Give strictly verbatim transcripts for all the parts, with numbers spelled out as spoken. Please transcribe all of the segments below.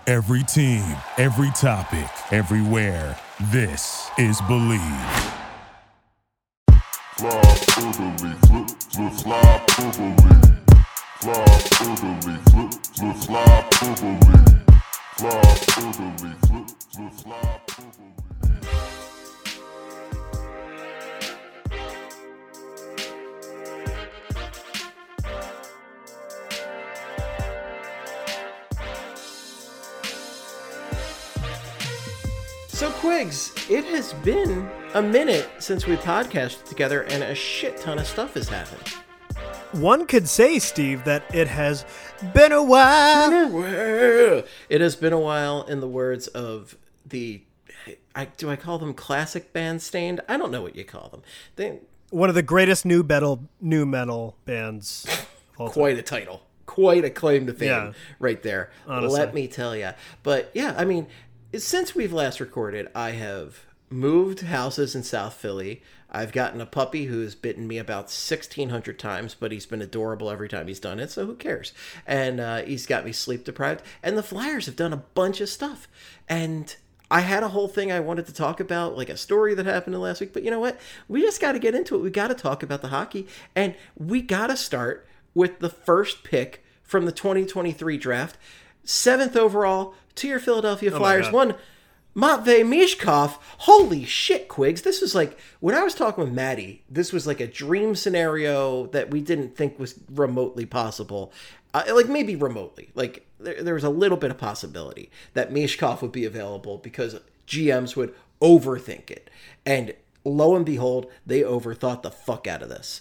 Every team, every topic, everywhere. This is Believe. Fly orderly, flip, flip, fly orderly. Fly orderly, flip, flip, fly orderly. Fly orderly, flip, flip, fly orderly. So, Quigs, it has been a minute since we podcasted together, and a shit ton of stuff has happened. One could say, Steve, that it has been a while. It has been a while, in the words of the, I, do I call them classic band Stained? I don't know what you call them. They, One of the greatest new metal, new metal bands. of all quite time. a title. Quite a claim to fame Yeah. right there. Honestly. Let me tell you. But yeah, I mean, since we've last recorded, I have moved houses in South Philly. I've gotten a puppy who's bitten me about sixteen hundred times, but he's been adorable every time he's done it, so who cares? And uh, he's got me sleep deprived. And the Flyers have done a bunch of stuff. And I had a whole thing I wanted to talk about, like a story that happened in last week. But you know what? We just got to get into it. We got to talk about the hockey. And we got to start with the first pick from the twenty twenty-three draft. Seventh overall to your Philadelphia Oh Flyers. One, Matvei Mishkov. Holy shit, Quigs. This was like, when I was talking with Maddie, this was like a dream scenario that we didn't think was remotely possible. Uh, like maybe remotely. Like there, there was a little bit of possibility that Mishkov would be available because G Ms would overthink it. And lo and behold, they overthought the fuck out of this.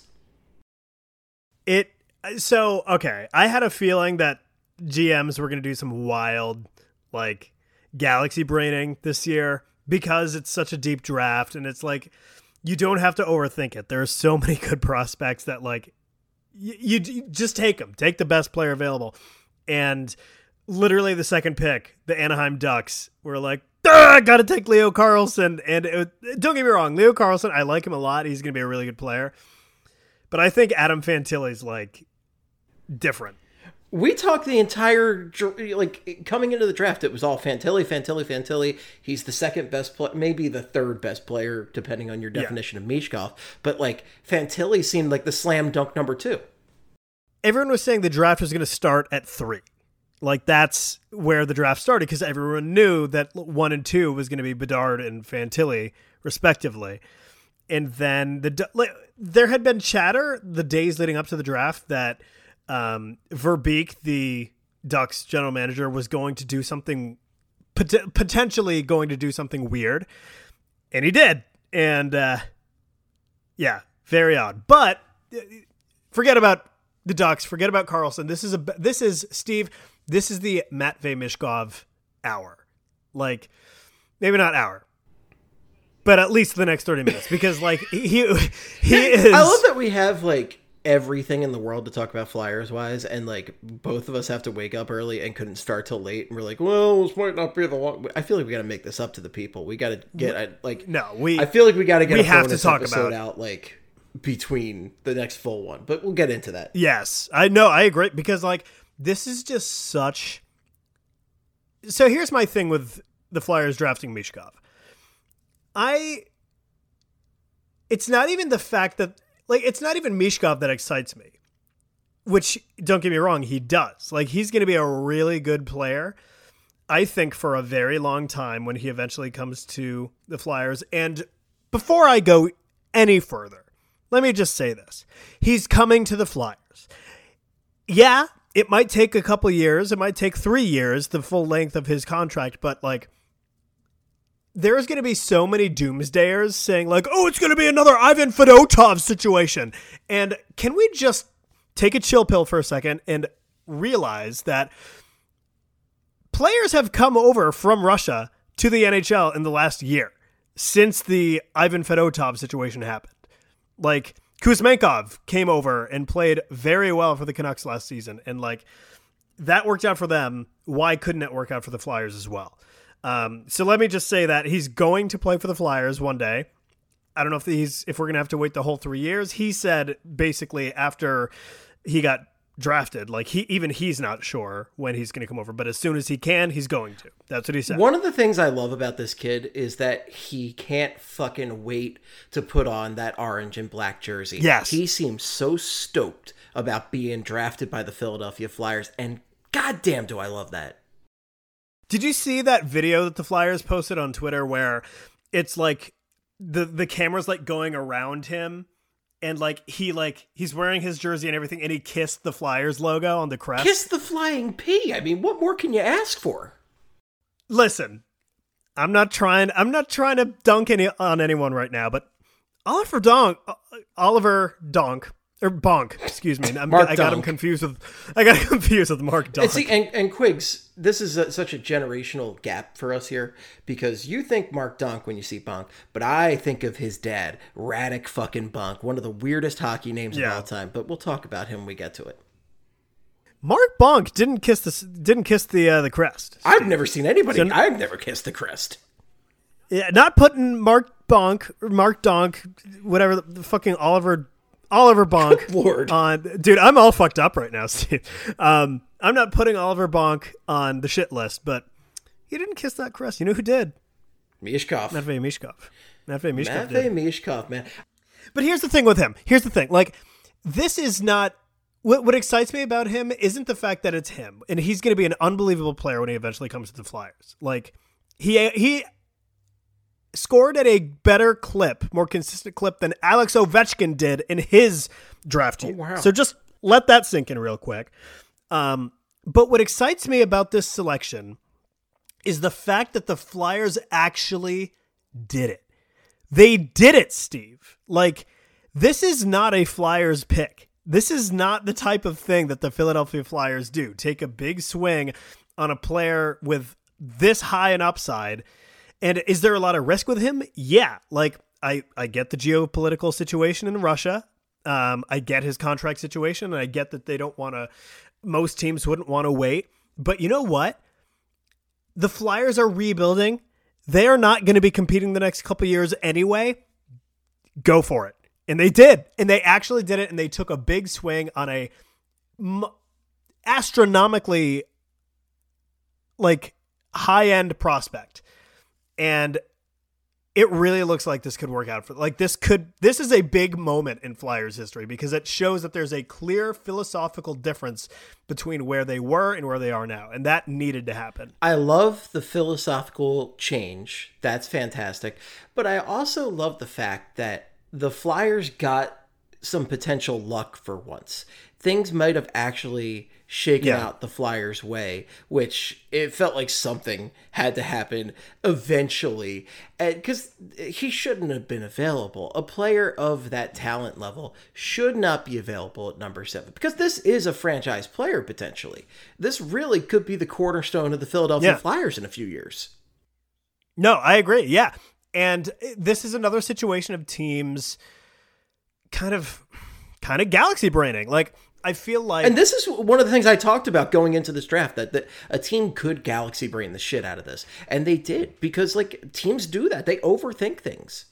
It so okay. I had a feeling that G Ms were going to do some wild, like, galaxy braining this year because it's such a deep draft, and it's like you don't have to overthink it. There are so many good prospects that like you, you, you just take them, take the best player available, and literally the second pick, the Anaheim Ducks were like, I got to take Leo Carlsson, and it, don't get me wrong, Leo Carlsson, I like him a lot. He's going to be a really good player, but I think Adam Fantilli's like different. We talked the entire, like, coming into the draft, it was all Fantilli, Fantilli, Fantilli. He's the second best player, maybe the third best player, depending on your definition yeah. of Mishkov. But, like, Fantilli seemed like the slam dunk number two. Everyone was saying the draft was going to start at three. Like, that's where the draft started, because everyone knew that one and two was going to be Bedard and Fantilli, respectively. And then the like, there had been chatter the days leading up to the draft that Um, Verbeek, the Ducks general manager, was going to do something, pot- potentially going to do something weird, and he did. And uh, yeah, very odd. But forget about the Ducks. Forget about Carlson. This is a this is Steve. This is the Matvei Mishkov hour. Like maybe not hour, but at least the next thirty minutes, because like he he is. I love that we have like everything in the world to talk about Flyers wise, and like both of us have to wake up early and couldn't start till late, and we're like, well, this might not be the long. I feel like we got to make this up to the people. We got to get I, like no we I feel like we got to get we a have bonus to talk episode about out like between the next full one, but we'll get into that. Yes, I know, I agree, because like this is just such. So here's my thing with the Flyers drafting Mishkov. I it's not even the fact that Like, it's not even Mishkov that excites me, which, don't get me wrong, he does. Like, he's going to be a really good player, I think, for a very long time when he eventually comes to the Flyers. And before I go any further, let me just say this. He's coming to the Flyers. Yeah, it might take a couple years. It might take three years, the full length of his contract, but, like, there's going to be so many doomsdayers saying like, oh, it's going to be another Ivan Fedotov situation. And can we just take a chill pill for a second and realize that players have come over from Russia to the N H L in the last year since the Ivan Fedotov situation happened. Like Kuzmenkov came over and played very well for the Canucks last season. And like that worked out for them. Why couldn't it work out for the Flyers as well? Um, so let me just say that he's going to play for the Flyers one day. I don't know if he's if we're going to have to wait the whole three years. He said basically after he got drafted. Like he, even he's not sure when he's going to come over, but as soon as he can, he's going to. That's what he said. One of the things I love about this kid is that he can't fucking wait to put on that orange and black jersey. Yes. He seems so stoked about being drafted by the Philadelphia Flyers, and goddamn do I love that. Did you see that video that the Flyers posted on Twitter where it's like the the camera's like going around him and like he like he's wearing his jersey and everything and he kissed the Flyers logo on the crest? Kiss the flying P. I mean, what more can you ask for? Listen, I'm not trying I'm not trying to dunk any on anyone right now, but Oliver Donk Oliver Donk Or Bonk, excuse me. I'm, Mark I got Dunk. him confused with. I got him confused with Mark Dunk. And see, and, and Quigs, this is a, such a generational gap for us here because you think Mark Dunk when you see Bonk, but I think of his dad, Radek fucking Bonk, one of the weirdest hockey names Yeah. of all time. But we'll talk about him when we get to it. Mark Bonk didn't kiss the didn't kiss the uh, the crest. I've never seen anybody. So- I've never kissed the crest. Yeah, not putting Mark Bonk or Mark Donk, whatever the, the fucking Oliver Oliver Bonk Lord. on. Dude, I'm all fucked up right now, Steve. Um, I'm not putting Oliver Bonk on the shit list, but he didn't kiss that crest. You know who did? Mishkov. Matvey Mishkov. Matvey Mishkov Matvey did. Mishkov, man. But here's the thing with him. Here's the thing. Like, this is not what what excites me about him isn't the fact that it's him, and he's going to be an unbelievable player when he eventually comes to the Flyers. Like, he he scored at a better clip, more consistent clip than Alex Ovechkin did in his draft year. Oh, wow. So just let that sink in real quick. Um, but what excites me about this selection is the fact that the Flyers actually did it. They did it, Steve. Like, this is not a Flyers pick. This is not the type of thing that the Philadelphia Flyers do. Take a big swing on a player with this high an upside. And is there a lot of risk with him? Yeah. Like, I, I get the geopolitical situation in Russia. Um, I get his contract situation, and I get that they don't want to, most teams wouldn't want to wait. But you know what? The Flyers are rebuilding. They are not going to be competing the next couple years anyway. Go for it. And they did. And they actually did it, and they took a big swing on a m- astronomically, like, high-end prospect. And it really looks like this could work out for, like, this could, this is a big moment in Flyers history because it shows that there's a clear philosophical difference between where they were and where they are now. And that needed to happen. I love the philosophical change. That's fantastic. But I also love the fact that the Flyers got some potential luck for once. Things might have actually shaken Yeah. out the Flyers' way, which it felt like something had to happen eventually. Because he shouldn't have been available. A player of that talent level should not be available at number seven. Because this is a franchise player, potentially. This really could be the cornerstone of the Philadelphia Yeah. Flyers in a few years. No, I agree. Yeah. And this is another situation of teams kind of, kind of galaxy braining. Like, I feel like, And this is one of the things I talked about going into this draft, that, that a team could galaxy brain the shit out of this. And they did, because like teams do that. They overthink things.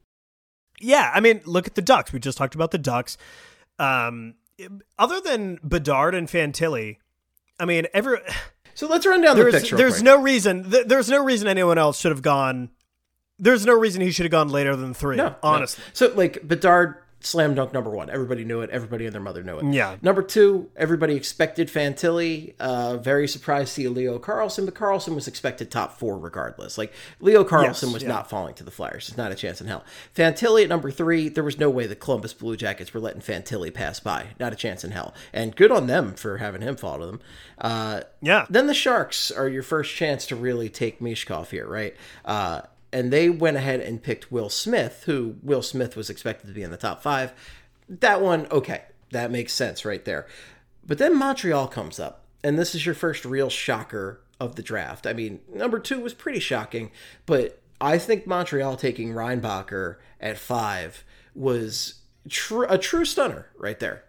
yeah, I mean, look at the Ducks. We just talked about the Ducks. Um, other than Bedard and Fantilli, I mean, every So let's run down the there's picture. there's quick. no reason th- there's no reason anyone else should have gone. There's no reason he should have gone later than three. No, honestly. no. So like Bedard, slam dunk number one. Everybody knew it. Everybody and their mother knew it. Yeah. Number two, everybody expected Fantilli. Uh, very surprised to see Leo Carlson, but Carlson was expected top four regardless. Like Leo Carlson Yes, was yeah. not falling to the Flyers. There's not a chance in hell. Fantilli at number three, there was no way the Columbus Blue Jackets were letting Fantilli pass by. Not a chance in hell. And good on them for having him fall to them. Uh, Yeah. Then the Sharks are your first chance to really take Mishkov here, right? Uh, and they went ahead and picked Will Smith, who Will Smith was expected to be in the top five. That one, okay, that makes sense right there. But then Montreal comes up, and this is your first real shocker of the draft. I mean, number two was pretty shocking, but I think Montreal taking Reinbacher at five was tr- a true stunner right there.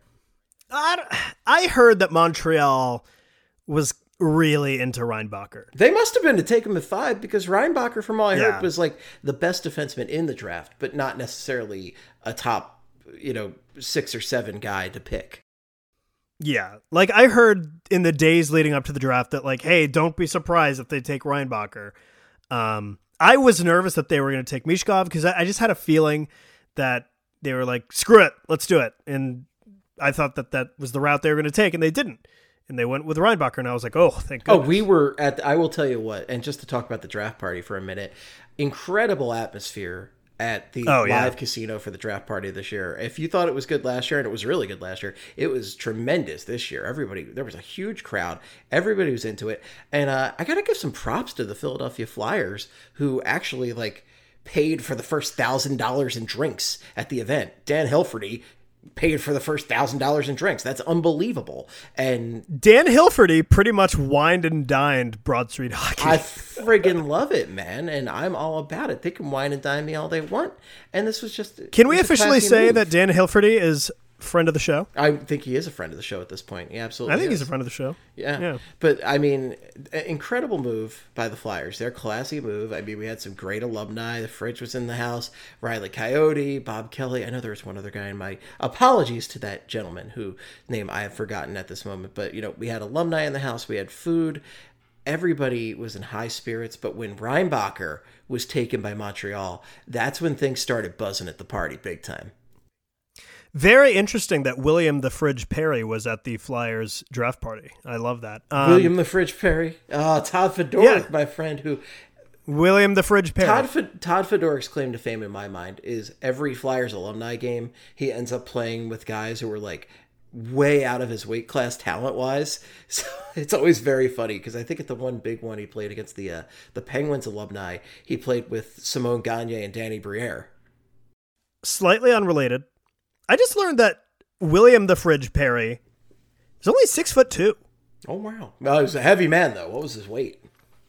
I, I heard that Montreal was really into Reinbacher. They must have been to take him at five, because Reinbacher, from all I Yeah. heard, was like the best defenseman in the draft, but not necessarily a top, you know, six or seven guy to pick. Yeah. Like, I heard in the days leading up to the draft that, like, hey, don't be surprised if they take Reinbacher. Um, I was nervous that they were going to take Mishkov because I, I just had a feeling that they were like, screw it, let's do it. And I thought that that was the route they were going to take, and they didn't. And they went with Reinbacher, and I was like, oh, thank goodness. Oh, we were at, the, I will tell you what, and just to talk about the draft party for a minute, incredible atmosphere at the oh, yeah. live casino for the draft party this year. If you thought it was good last year, and it was really good last year, it was tremendous this year. Everybody, there was a huge crowd. Everybody was into it. And uh, I got to give some props to the Philadelphia Flyers, who actually, like, paid for the first one thousand dollars in drinks at the event. Dan Hilferty paid for the first one thousand dollars in drinks. That's unbelievable. And Dan Hilferty pretty much wined and dined Broad Street Hockey. I friggin' love it, man. And I'm all about it. They can wine and dine me all they want. And this was just... Can we officially say move. that Dan Hilferty is friend of the show? I think he is a friend of the show at this point. Yeah, absolutely. I think is. he's a friend of the show. Yeah. yeah. But, I mean, incredible move by the Flyers. Their classy move. I mean, we had some great alumni. The Fridge was in the house. Riley Coyote, Bob Kelly. I know there was one other guy in my... Apologies to that gentleman whose name I have forgotten at this moment. But, you know, we had alumni in the house. We had food. Everybody was in high spirits. But when Reinbacher was taken by Montreal, that's when things started buzzing at the party big time. Very interesting that William the Fridge Perry was at the Flyers draft party. I love that. Um, William the Fridge Perry. Oh, Todd Fedoruk, yeah. my friend, who... William the Fridge Perry. Todd, F- Todd Fedoruk's claim to fame in my mind is every Flyers alumni game, he ends up playing with guys who are like way out of his weight class talent-wise. So it's always very funny because I think at the one big one he played against the uh, the Penguins alumni, he played with Simone Gagne and Danny Briere. Slightly unrelated. I just learned that William the Fridge Perry is only six foot two. Oh, wow. Well, he was a heavy man, though. What was his weight?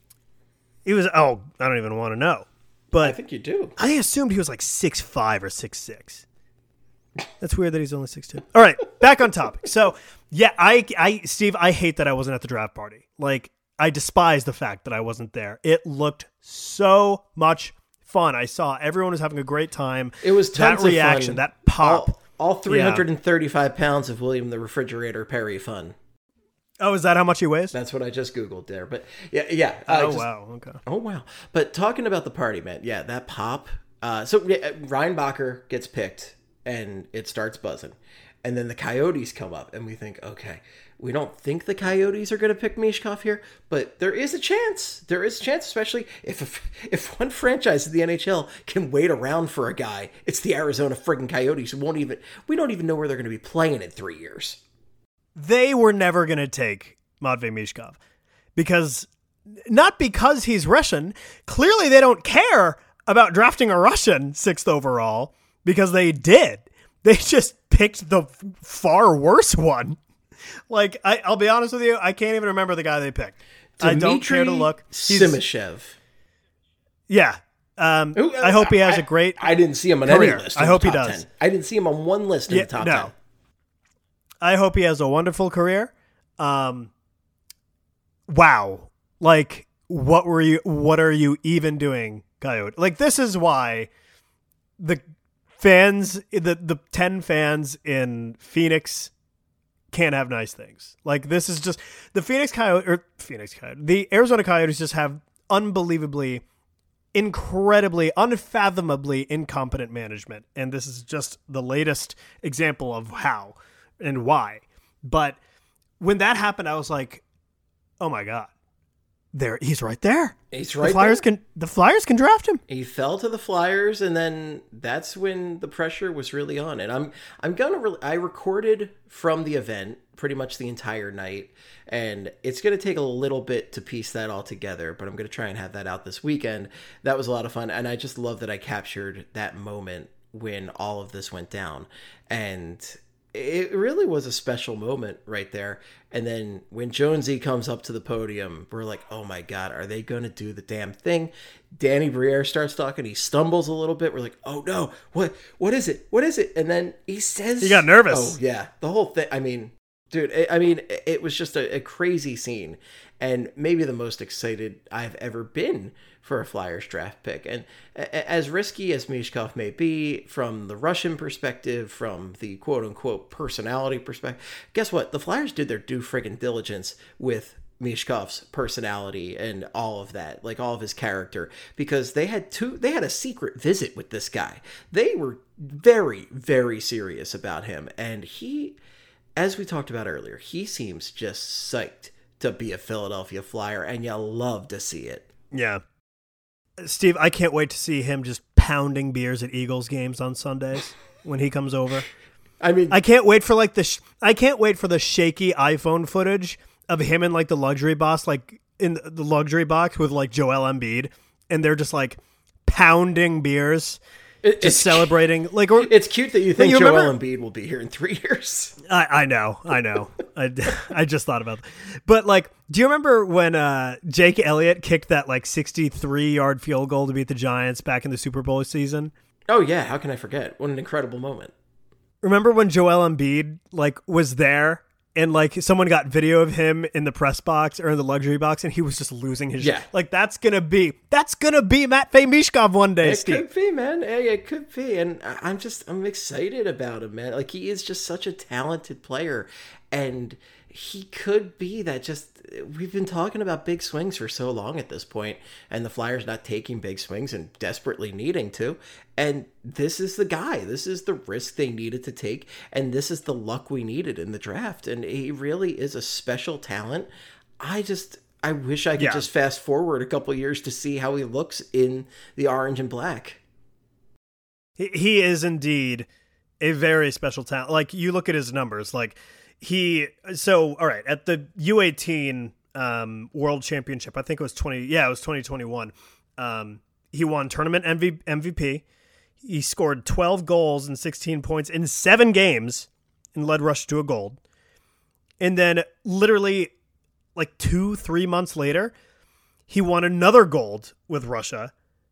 He was, oh, I don't even want to know. But I think you do. I assumed he was like six five or six six. That's weird that he's only six two. All right, back on topic. So, yeah, I, I, Steve, I hate that I wasn't at the draft party. Like, I despise the fact that I wasn't there. It looked so much fun. I saw everyone was having a great time. It was tons that reaction, of fun. That pop. All, all three hundred thirty-five yeah. pounds of William the Refrigerator Perry fun. Oh, is that how much he weighs? That's what I just Googled there. But yeah, yeah. Uh, oh, just, wow. Okay. Oh, wow. But talking about the party, man. Yeah, that pop. Uh, so yeah, Reinbacher gets picked and it starts buzzing. And then the Coyotes come up and we think, okay, we don't think the Coyotes are going to pick Mishkov here, but there is a chance. There is a chance, especially if if, if one franchise in the N H L can wait around for a guy, it's the Arizona friggin' Coyotes who won't even, we don't even know where they're going to be playing in three years. They were never going to take Matvei Mishkov because, not because he's Russian, clearly they don't care about drafting a Russian sixth overall because they did. They just picked the far worse one. Like, I, I'll be honest with you, I can't even remember the guy they picked. Dmitry I don't care to look. He's, Simashev. Yeah. Um, Ooh, I hope he has I, a great I didn't see him on career. any list. I hope he does. ten. I didn't see him on one list in yeah, the top no. ten. I hope he has a wonderful career. Um, wow. Like, what were you, what are you even doing, Coyote? Like, this is why the fans, the, the ten fans in Phoenix can't have nice things. Like, this is just, the Phoenix Coyote, or Phoenix Coyote, the Arizona Coyotes just have unbelievably, incredibly, unfathomably incompetent management. And this is just the latest example of how and why. But when that happened, I was like, oh my God, there, he's right there. He's right the Flyers there. Can, the Flyers can draft him. He fell to the Flyers, and then that's when the pressure was really on. And I'm, I'm gonna, re- I recorded from the event pretty much the entire night, and it's gonna take a little bit to piece that all together, but I'm gonna try and have that out this weekend. That was a lot of fun, and I just love that I captured that moment when all of this went down, and it really was a special moment right there. And then when Jonesy comes up to the podium, we're like, oh my God, are they going to do the damn thing? Danny Briere starts talking. He stumbles a little bit. We're like, oh no, what, what is it? What is it? And then he says, he got nervous. Oh yeah. The whole thing. I mean, Dude, I mean, it was just a, a crazy scene, and maybe the most excited I've ever been for a Flyers draft pick. And as risky as Michkov may be from the Russian perspective, from the quote-unquote personality perspective, guess what? The Flyers did their due friggin' diligence with Mishkov's personality and all of that, like all of his character, because they had two, they had a secret visit with this guy. They were very, very serious about him, and he... As we talked about earlier, he seems just psyched to be a Philadelphia Flyer, and you love to see it. Yeah. Steve, I can't wait to see him just pounding beers at Eagles games on Sundays when he comes over. I mean, I can't wait for like the sh- I can't wait for the shaky iPhone footage of him in like the luxury box, like in the luxury box with like Joel Embiid, and they're just like pounding beers. It, just celebrating, like or, it's cute that you think you Joel remember, Embiid will be here in three years. I, I know, I know. I, I just thought about that. But like, do you remember when uh, Jake Elliott kicked that like sixty-three yard field goal to beat the Giants back in the Super Bowl season? Oh yeah, how can I forget? What an incredible moment! Remember when Joel Embiid like was there? And, like, someone got video of him in the press box or in the luxury box, and he was just losing his yeah. shit. Like, that's going to be, that's going to be Matvei Michkov one day, it Steve. It could be, man. Hey, it could be. And I'm just, I'm excited about him, man. Like, he is just such a talented player. And he could be that just, we've been talking about big swings for so long at this point, and the Flyers not taking big swings and desperately needing to. And this is the guy. This is the risk they needed to take, and this is the luck we needed in the draft. And he really is a special talent. I just, I wish I could yeah. just fast forward a couple years to see how he looks in the orange and black. He, he is indeed a very special talent. Like, you look at his numbers, like, He so all right at the U eighteen um, World Championship. I think it was twenty. Yeah, it was twenty twenty-one. Um, he won tournament M V P. He scored twelve goals and sixteen points in seven games and led Russia to a gold. And then, literally, like two, three months later, he won another gold with Russia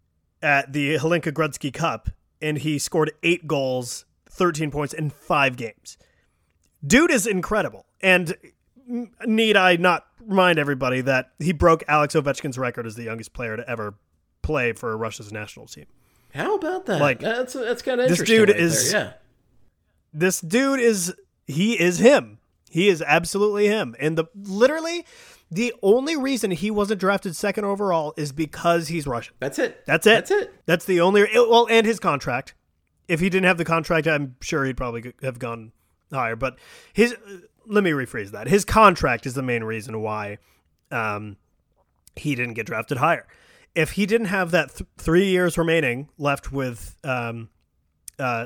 at the Hlinka Gretzky Cup, and he scored eight goals, thirteen points in five games. Dude is incredible. And need I not remind everybody that he broke Alex Ovechkin's record as the youngest player to ever play for Russia's national team. How about that? Like, that's that's kind of interesting. This dude right is there. Yeah. This dude is he is him. He is absolutely him. And the literally the only reason he wasn't drafted second overall is because he's Russian. That's it. That's it. That's it. That's the only well, and his contract. If he didn't have the contract, I'm sure he'd probably have gone higher, but his let me rephrase that. His contract is the main reason why um, he didn't get drafted higher. If he didn't have that th- three years remaining left with um, uh,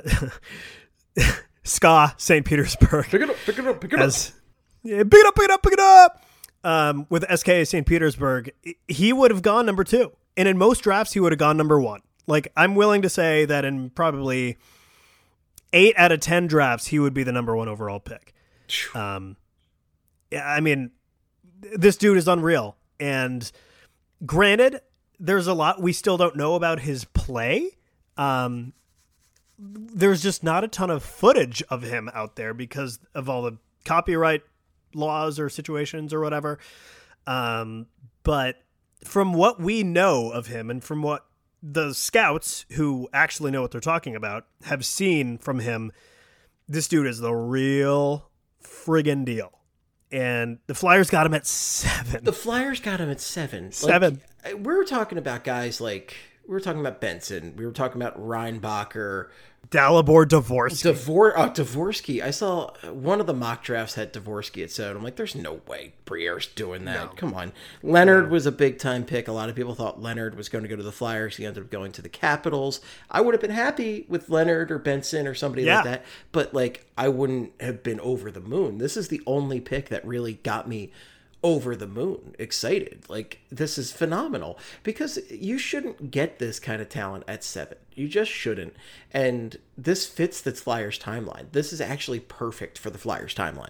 S K A Saint Petersburg, pick it up, pick it up, pick it as, up, yeah, pick it up, pick it up, pick it up. Um, with S K A Saint Petersburg, he would have gone number two, and in most drafts, he would have gone number one. Like, I'm willing to say that in probably eight out of ten drafts, he would be the number one overall pick. Um, yeah, I mean, this dude is unreal. And granted, there's a lot we still don't know about his play. Um, there's just not a ton of footage of him out there because of all the copyright laws or situations or whatever. Um, but from what we know of him and from what the scouts who actually know what they're talking about have seen from him, this dude is the real friggin' deal. And the Flyers got him at seven. The Flyers got him at seven. Seven. Like, we were talking about guys like, we were talking about Benson. We were talking about Reinbacher. Dalibor Dvorsky. Dvor- oh, Dvorsky. I saw one of the mock drafts had Dvorsky at seven. I'm like, there's no way Briere's doing that. No. Come on. Leonard no. was a big time pick. A lot of people thought Leonard was going to go to the Flyers. He ended up going to the Capitals. I would have been happy with Leonard or Benson or somebody yeah. like that. But like, I wouldn't have been over the moon. This is the only pick that really got me over the moon excited. Like, this is phenomenal because you shouldn't get this kind of talent at seven. You just shouldn't. And this fits the Flyers timeline. This is actually perfect for the Flyers timeline.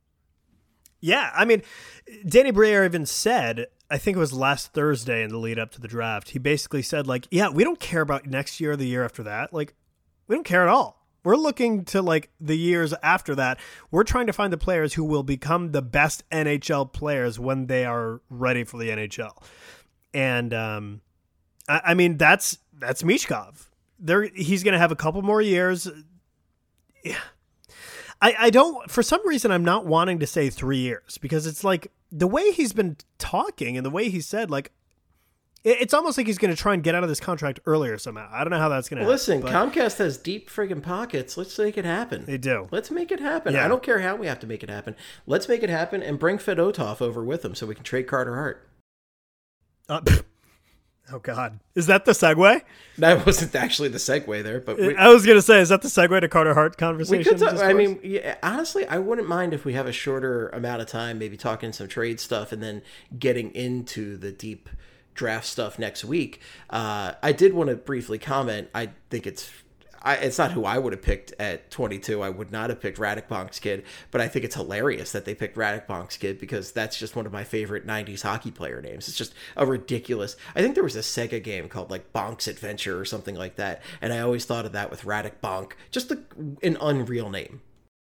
Yeah, I mean, Danny Briere even said, I think it was last Thursday in the lead up to the draft, he basically said, like, yeah, we don't care about next year or the year after that. Like, we don't care at all. We're looking to like the years after that. We're trying to find the players who will become the best N H L players when they are ready for the N H L. And um, I, I mean, that's that's Michkov. There, he's going to have a couple more years. Yeah. I, I don't, for some reason, I'm not wanting to say three years because it's like the way he's been talking and the way he said, like, it, it's almost like he's going to try and get out of this contract earlier somehow. I don't know how that's going to Listen, happen. Listen, Comcast has deep friggin' pockets. Let's make it happen. They do. Let's make it happen. Yeah. I don't care how we have to make it happen. Let's make it happen and bring Fedotov over with him so we can trade Carter Hart. Uh, oh, God. Is that the segue? That wasn't actually the segue there, but we, I was going to say, is that the segue to Carter Hart conversation? we could talk, I mean, yeah, honestly, I wouldn't mind if we have a shorter amount of time, maybe talking some trade stuff and then getting into the deep draft stuff next week. Uh, I did want to briefly comment. I think it's I, it's not who I would have picked at twenty-two. I would not have picked Radek Bonk's kid, but I think it's hilarious that they picked Radek Bonk's kid because that's just one of my favorite nineties hockey player names. It's just a ridiculous. I think there was a Sega game called like Bonk's Adventure or something like that, and I always thought of that with Radek Bonk. Just a, an unreal name.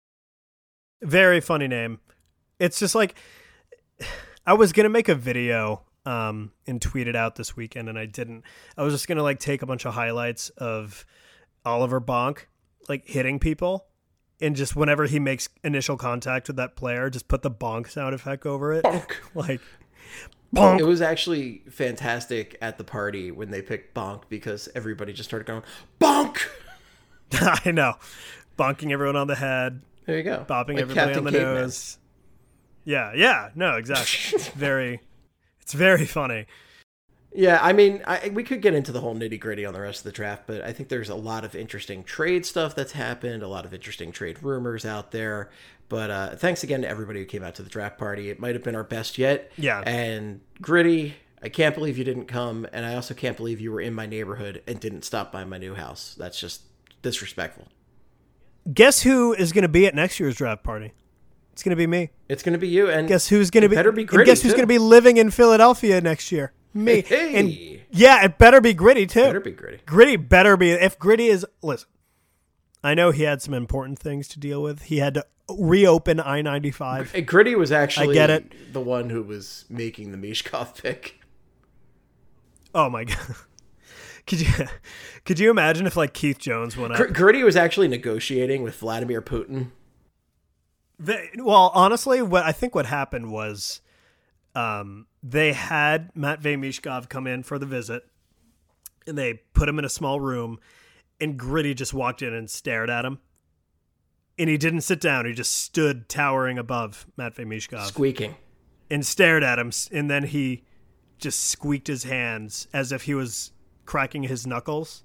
Very funny name. It's just like, I was going to make a video um, and tweet it out this weekend, and I didn't. I was just going to like take a bunch of highlights of Oliver Bonk like hitting people, and just whenever he makes initial contact with that player, just put the bonk sound effect over it. Bonk. Like bonk. It was actually fantastic at the party when they picked Bonk because everybody just started going bonk. I know, bonking everyone on the head. There you go, bopping like everybody Captain on the Caveman. nose. Yeah, yeah, no, exactly. It's very, it's very funny. Yeah, I mean, I, we could get into the whole nitty gritty on the rest of the draft, but I think there's a lot of interesting trade stuff that's happened, a lot of interesting trade rumors out there. But uh, thanks again to everybody who came out to the draft party. It might have been our best yet. Yeah. And Gritty, I can't believe you didn't come, and I also can't believe you were in my neighborhood and didn't stop by my new house. That's just disrespectful. Guess who is going to be at next year's draft party? It's going to be me. It's going to be you, and guess who's going to be? better be and Gritty. Guess who's going to be living in Philadelphia next year? Me. Hey. And yeah, it better be Gritty too. Better be Gritty. Gritty better be. If Gritty is, listen, I know he had some important things to deal with. He had to reopen I ninety-five. And Gritty was actually I get it. the one who was making the Michkov pick. Oh my God. Could you could you imagine if like Keith Jones went up? Gr- Gritty was actually negotiating with Vladimir Putin. They, well, honestly, what I think what happened was um, they had Matvei Michkov come in for the visit, and they put him in a small room, and Gritty just walked in and stared at him. And he didn't sit down. He just stood towering above Matvei Michkov. Squeaking. And stared at him, and then he just squeaked his hands as if he was cracking his knuckles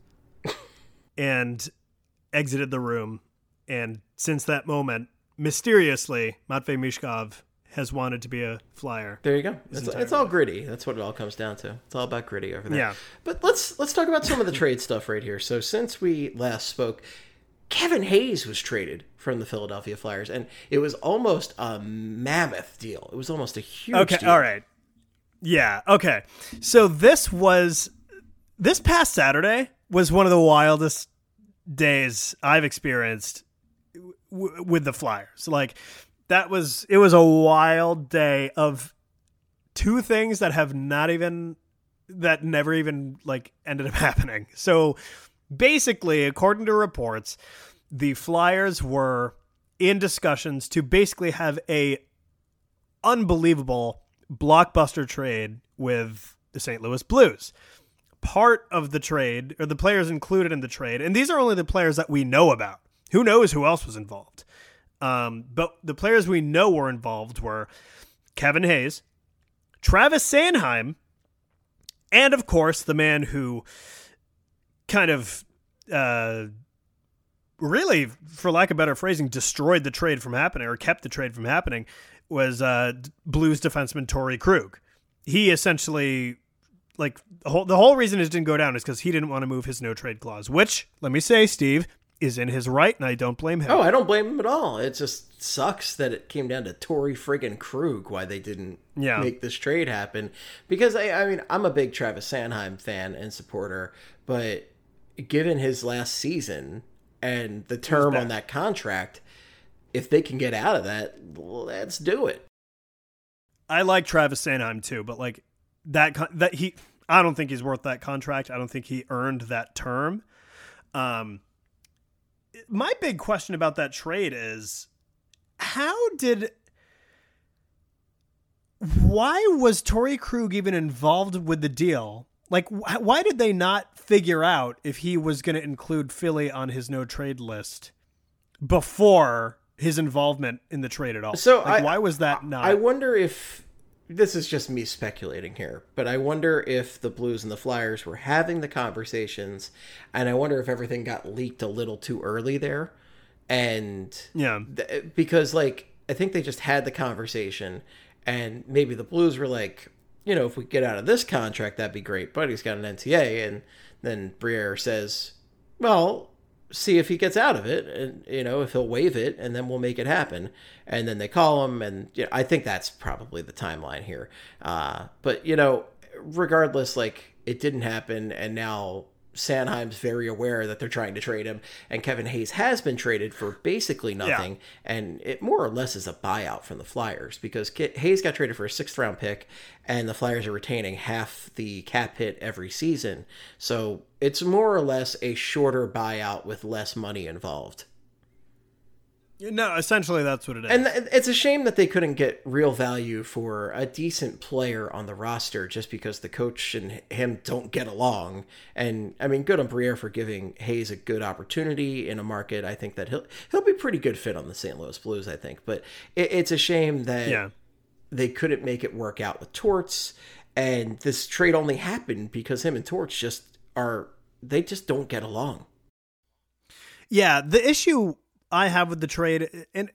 and exited the room. And since that moment, mysteriously, Matvei Michkov has wanted to be a Flyer. There you go. It's, it's all Gritty. That's what it all comes down to. It's all about Gritty over there. Yeah. But let's let's talk about some of the trade stuff right here. So since we last spoke, Kevin Hayes was traded from the Philadelphia Flyers, and it was almost a mammoth deal. It was almost a huge okay, deal. all right. Yeah, okay. So this was, this past Saturday was one of the wildest days I've experienced w- with the Flyers. Like, that was, it was a wild day of two things that have not even, that never even, like, ended up happening. So, basically, according to reports, the Flyers were in discussions to basically have a unbelievable blockbuster trade with the Saint Louis Blues. Part of the trade, or the players included in the trade, and these are only the players that we know about. Who knows who else was involved? Um, but the players we know were involved were Kevin Hayes, Travis Sanheim, and of course the man who kind of uh, really, for lack of better phrasing, destroyed the trade from happening or kept the trade from happening was uh, Blues defenseman Torrey Krug. He essentially, like, the whole, the whole reason it didn't go down is because he didn't want to move his no-trade clause, which, let me say, Steve, is in his right, and I don't blame him. Oh, I don't blame him at all. It just sucks that it came down to Torrey friggin' Krug why they didn't Yeah. make this trade happen. Because, I, I mean, I'm a big Travis Sanheim fan and supporter, but given his last season, and the term on that contract, if they can get out of that, let's do it. I like Travis Sanheim too, but like that that he I don't think he's worth that contract. I don't think he earned that term. Um my big question about that trade is how did why was Torrey Krug even involved with the deal? Like, wh- why did they not figure out if he was going to include Philly on his no trade list before his involvement in the trade at all? So like, I, why was that not? I wonder if this is just me speculating here, but I wonder if the Blues and the Flyers were having the conversations, and I wonder if everything got leaked a little too early there. And yeah, th- because like, I think they just had the conversation, and maybe the Blues were like, you know, if we get out of this contract, that'd be great. But he's got an N T A. And then Briere says, well, see if he gets out of it, and, you know, if he'll waive it, and then we'll make it happen. And then they call him. And you know, I think that's probably the timeline here. Uh, but, you know, regardless, like, it didn't happen. And now Sanheim's very aware that they're trying to trade him, and Kevin Hayes has been traded for basically nothing, yeah. and it more or less is a buyout from the Flyers, because Hayes got traded for a sixth round pick, and the Flyers are retaining half the cap hit every season, so it's more or less a shorter buyout with less money involved. No, essentially that's what it is. And it's a shame that they couldn't get real value for a decent player on the roster just because the coach and him don't get along. And I mean, good on Briere for giving Hayes a good opportunity in a market. I think that he'll he'll be a pretty good fit on the Saint Louis Blues, I think. But it, it's a shame that yeah. they couldn't make it work out with Torts. And this trade only happened because him and Torts just are, they just don't get along. Yeah, the issue I have with the trade, and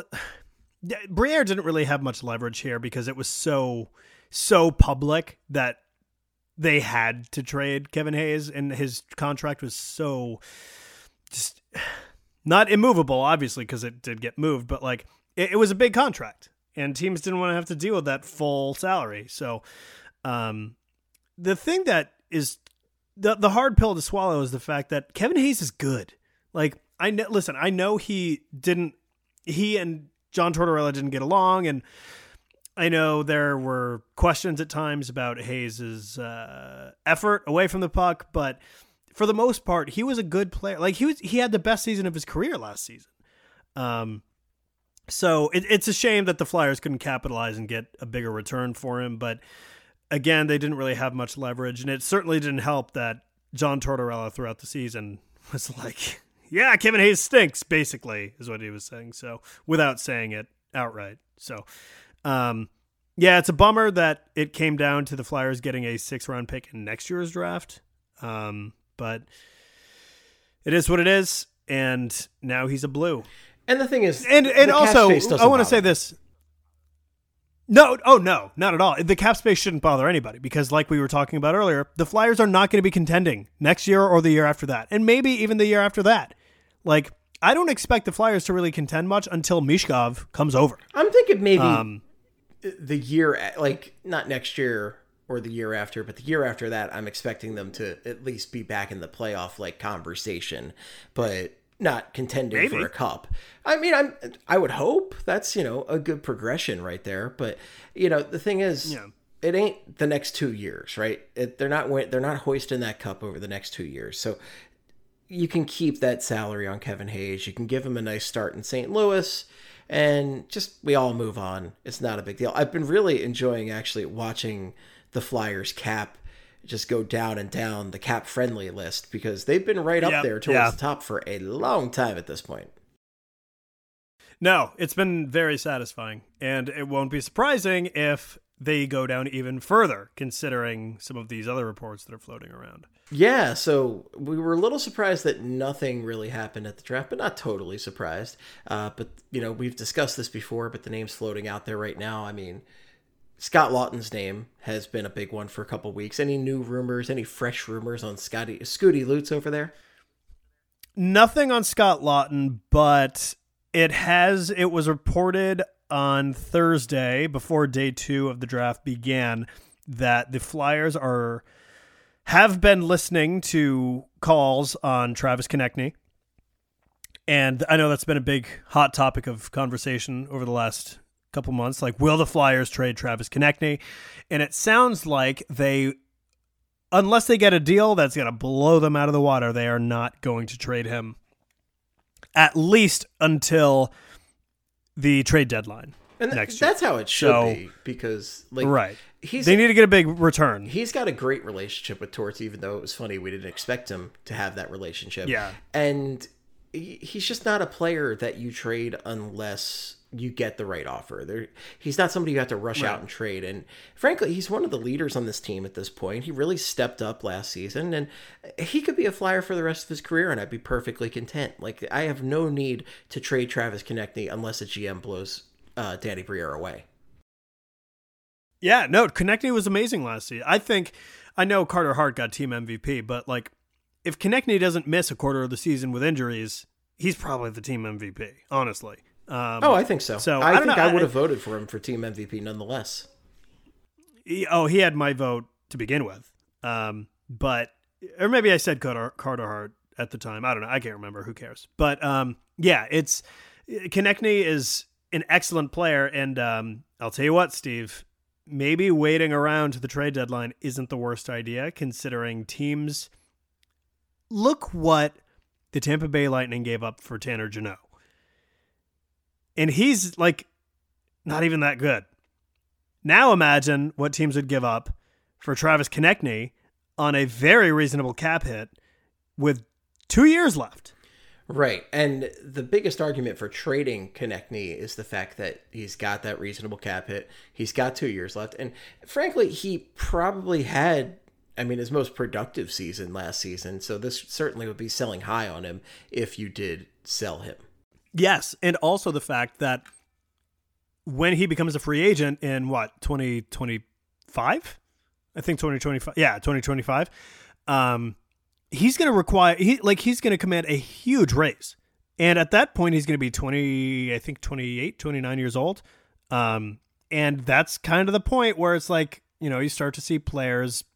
Briere didn't really have much leverage here because it was so, so public that they had to trade Kevin Hayes, and his contract was so just not immovable, obviously, because it did get moved, but like it, it was a big contract, and teams didn't want to have to deal with that full salary. So um, the thing that is the the hard pill to swallow is the fact that Kevin Hayes is good. Like, I know, listen, I know he didn't, he and John Tortorella didn't get along, and I know there were questions at times about Hayes's uh, effort away from the puck, but for the most part, he was a good player. Like, he was, he had the best season of his career last season. Um, so it, it's a shame that the Flyers couldn't capitalize and get a bigger return for him, but again, they didn't really have much leverage, and it certainly didn't help that John Tortorella throughout the season was like, yeah, Kevin Hayes stinks, basically, is what he was saying. So, without saying it outright. So, um, yeah, it's a bummer that it came down to the Flyers getting a sixth round pick in next year's draft. Um, but it is what it is. And now he's a Blue. And the thing is, and, and also, I want to say this. No, oh no, not at all. The cap space shouldn't bother anybody because, like we were talking about earlier, the Flyers are not going to be contending next year or the year after that, and maybe even the year after that. Like, I don't expect the Flyers to really contend much until Mishkov comes over. I'm thinking maybe um, the year, like not next year or the year after, but the year after that, I'm expecting them to at least be back in the playoff like conversation, but not contending maybe. for a cup. I mean, I'm, I would hope that's, you know, a good progression right there. But, you know, the thing is, yeah. it ain't the next two years, right? It, they're not, they're not hoisting that cup over the next two years. So you can keep that salary on Kevin Hayes. You can give him a nice start in Saint Louis and just, we all move on. It's not a big deal. I've been really enjoying actually watching the Flyers cap just go down and down the cap friendly list because they've been right up yep, there towards yeah. the top for a long time at this point. No, it's been very satisfying, and it won't be surprising if they go down even further, considering some of these other reports that are floating around. Yeah, so we were a little surprised that nothing really happened at the draft, but not totally surprised. Uh, but, you know, we've discussed this before, but the name's floating out there right now. I mean, Scott Laughton's name has been a big one for a couple weeks. Any new rumors, any fresh rumors on Scotty, Scooty Lutz over there? Nothing on Scott Laughton, but it has, it was reported on Thursday before day two of the draft began that the Flyers are, have been listening to calls on Travis Konechny. And I know that's been a big hot topic of conversation over the last couple months. Like, will the Flyers trade Travis Konechny? And it sounds like they, unless they get a deal that's going to blow them out of the water, they are not going to trade him, at least until the trade deadline. And th- next year. That's how it should So, be, because like right. he's They need to get a big return. he's got a great relationship with Torts, even though it was funny we didn't expect him to have that relationship. Yeah. And he- he's just not a player that you trade unless you get the right offer. There, he's not somebody you have to rush Right. out and trade. And frankly, he's one of the leaders on this team at this point. He really stepped up last season, and he could be a Flyer for the rest of his career, and I'd be perfectly content. Like, I have no need to trade Travis Konechny unless a G M blows uh, Danny Briere away. Yeah, no, Konechny was amazing last season. I think, I know Carter Hart got team M V P, but like, if Konechny doesn't miss a quarter of the season with injuries, he's probably the team M V P, honestly. Um, Oh, I think so. So, I, I don't think know, I I- would have voted for him for team M V P nonetheless. he, oh, he had my vote to begin with. Um, but, or maybe I said Carter, Carter Hart at the time. I don't know. I can't remember. Who cares? But um, yeah, it's, Konechny is an excellent player. And um, I'll tell you what, Steve, maybe waiting around to the trade deadline isn't the worst idea, considering teams. Look what the Tampa Bay Lightning gave up for Tanner Jeannot. And he's like not even that good. Now imagine what teams would give up for Travis Konechny on a very reasonable cap hit with two years left. Right. And the biggest argument for trading Konechny is the fact that he's got that reasonable cap hit. He's got two years left. And frankly, he probably had, I mean, his most productive season last season. So this certainly would be selling high on him if you did sell him. Yes. And also the fact that when he becomes a free agent in what, twenty twenty-five? I think twenty twenty-five. Yeah, twenty twenty-five. Um, he's going to require, he like he's going to command a huge raise. And at that point, he's going to be twenty, I think twenty-eight, twenty-nine years old. Um, and that's kind of the point where it's like, you know, you start to see players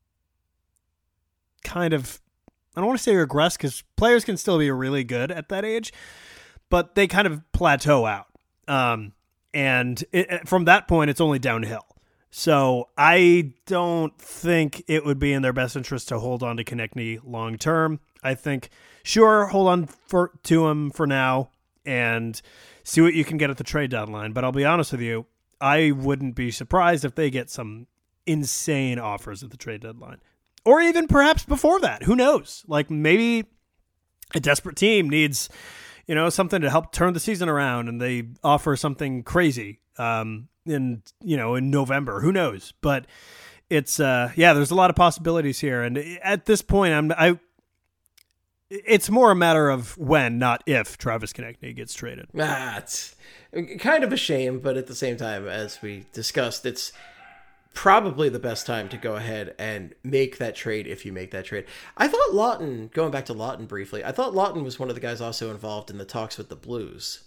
kind of, I don't want to say regress, because players can still be really good at that age, but they kind of plateau out. Um, and it, from that point, it's only downhill. So I don't think it would be in their best interest to hold on to Konechny long term. I think, sure, hold on for, to him for now and see what you can get at the trade deadline. But I'll be honest with you, I wouldn't be surprised if they get some insane offers at the trade deadline. Or even perhaps before that. Who knows? Like, maybe a desperate team needs, you know, something to help turn the season around, and they offer something crazy um, in, you know, in November. Who knows? But it's, uh, yeah, there's a lot of possibilities here. And at this point, I'm, I, it's more a matter of when, not if, Travis Konechny gets traded. Ah, it's kind of a shame, but at the same time, as we discussed, it's probably the best time to go ahead and make that trade if you make that trade. I thought Lawton, going back to Lawton briefly, I thought Lawton was one of the guys also involved in the talks with the Blues.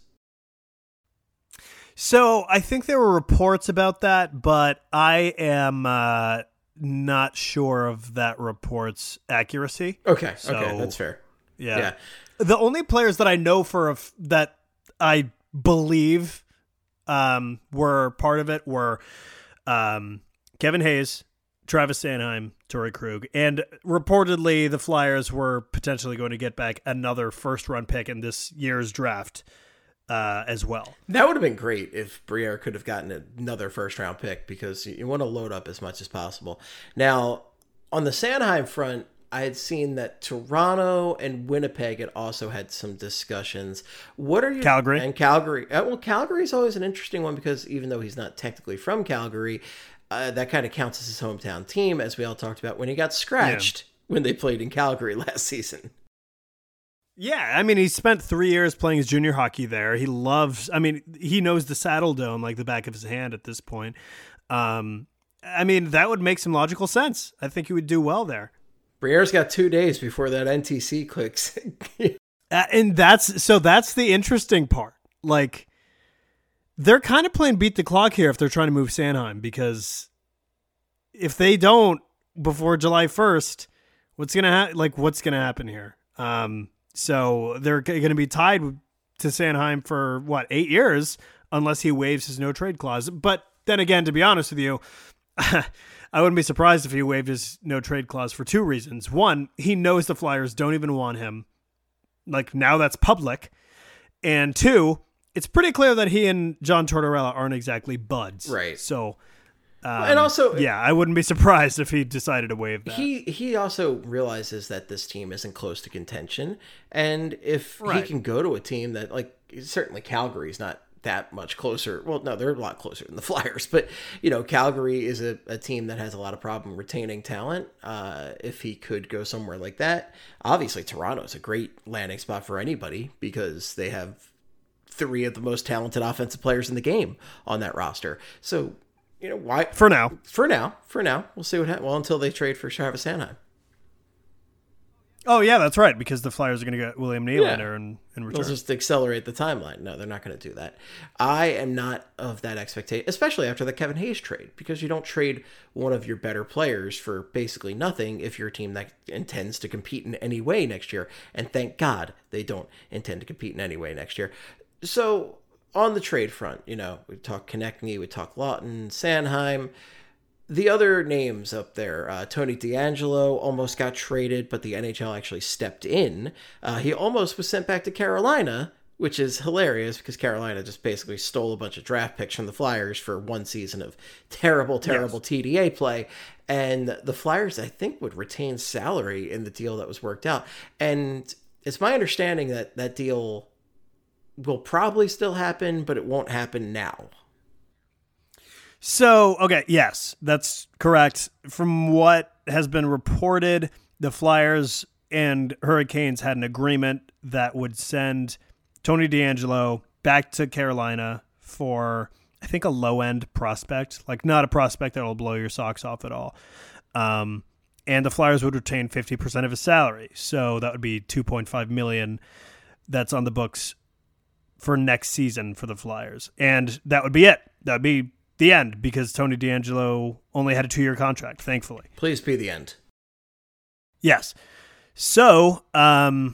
So I think there were reports about that, but I am uh, not sure of that report's accuracy. Okay, So, okay, that's fair. Yeah. Yeah. The only players that I know for a f- that I believe um, were part of it were um, Kevin Hayes, Travis Sanheim, Torrey Krug, and reportedly the Flyers were potentially going to get back another first-round pick in this year's draft uh, as well. That would have been great if Briere could have gotten another first-round pick, because you want to load up as much as possible. Now, on the Sanheim front, I had seen that Toronto and Winnipeg had also had some discussions. What are you Calgary. and Calgary? Uh, well, Calgary is always an interesting one, because even though he's not technically from Calgary, uh, that kind of counts as his hometown team, as we all talked about when he got scratched yeah. when they played in Calgary last season. Yeah, I mean, he spent three years playing his junior hockey there. He loves, I mean, he knows the Saddle Dome like the back of his hand at this point. Um, I mean, that would make some logical sense. I think he would do well there. Briere's got two days before that N T C clicks. uh, and that's, so that's the interesting part. Like, they're kind of playing beat the clock here if they're trying to move Sanheim, because if they don't before July first, what's going to happen? Like, what's going to happen here? Um, So they're going to be tied to Sanheim for, what, eight years, unless he waives his no-trade clause. But then again, to be honest with you, I wouldn't be surprised if he waived his no-trade clause for two reasons. One, he knows the Flyers don't even want him. Like, now that's public. And two, it's pretty clear that he and John Tortorella aren't exactly buds. Right. So, um, and also, yeah, I wouldn't be surprised if he decided to waive that. He he also realizes that this team isn't close to contention. And if Right. he can go to a team that, like, certainly Calgary's not that much closer. Well, no, they're a lot closer than the Flyers. But, you know, Calgary is a, a team that has a lot of problem retaining talent. Uh, if he could go somewhere like that, obviously Toronto's a great landing spot for anybody because they have three of the most talented offensive players in the game on that roster. So, you know, why? For now. For now. For now. We'll see what happens. Well, until they trade for Travis Sanheim. Oh, yeah, that's right, because the Flyers are going to get William Nylander in, in return. They'll just accelerate the timeline. No, they're not going to do that. I am not of that expectation, especially after the Kevin Hayes trade, because you don't trade one of your better players for basically nothing if you're a team that intends to compete in any way next year. And thank God they don't intend to compete in any way next year. So on the trade front, you know, we talk Konechny, we talk Lawton, Sanheim. The other names up there, uh, Tony DeAngelo almost got traded, but the N H L actually stepped in. Uh, he almost was sent back to Carolina, which is hilarious because Carolina just basically stole a bunch of draft picks from the Flyers for one season of terrible, terrible yes. T D A play. And the Flyers, I think, would retain salary in the deal that was worked out. And it's my understanding that that deal will probably still happen, but it won't happen now. So, okay, yes, that's correct. From what has been reported, the Flyers and Hurricanes had an agreement that would send Tony DeAngelo back to Carolina for, I think, a low-end prospect, like not a prospect that will blow your socks off at all. Um, and the Flyers would retain fifty percent of his salary. So that would be two point five million dollars that's on the books for next season for the Flyers. And that would be it. That would be the end, because Tony DeAngelo only had a two-year contract, thankfully. Please be the end. Yes. So, um,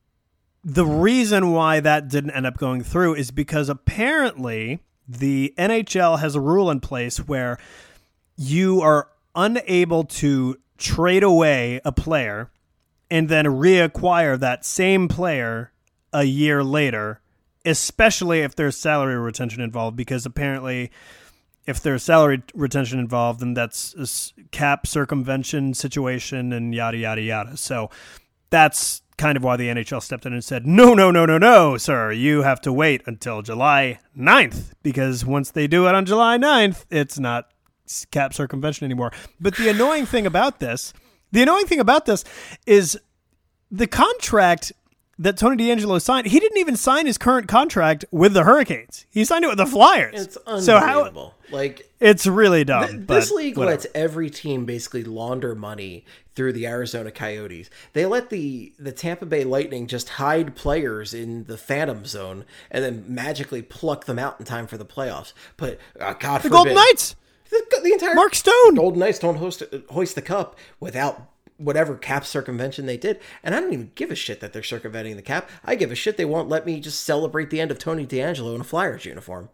the reason why that didn't end up going through is because apparently the N H L has a rule in place where you are unable to trade away a player and then reacquire that same player a year later, especially if there's salary retention involved, because apparently if there's salary retention involved, then that's a cap circumvention situation and yada, yada, yada. So that's kind of why the N H L stepped in and said, no, no, no, no, no, sir. You have to wait until July ninth, because once they do it on July ninth, it's not cap circumvention anymore. But the annoying thing about this, the annoying thing about this is the contract that Tony DeAngelo signed. He didn't even sign his current contract with the Hurricanes. He signed it with the Flyers. It's unbelievable. So how, like it's really dumb. Th- but this league whatever. lets every team basically launder money through the Arizona Coyotes. They let the the Tampa Bay Lightning just hide players in the Phantom Zone and then magically pluck them out in time for the playoffs. But uh, God the forbid, Golden Knights, the, the entire Mark Stone, Golden Knights don't host hoist the cup without whatever cap circumvention they did. And I don't even give a shit that they're circumventing the cap. I give a shit they won't let me just celebrate the end of Tony DeAngelo in a Flyers uniform.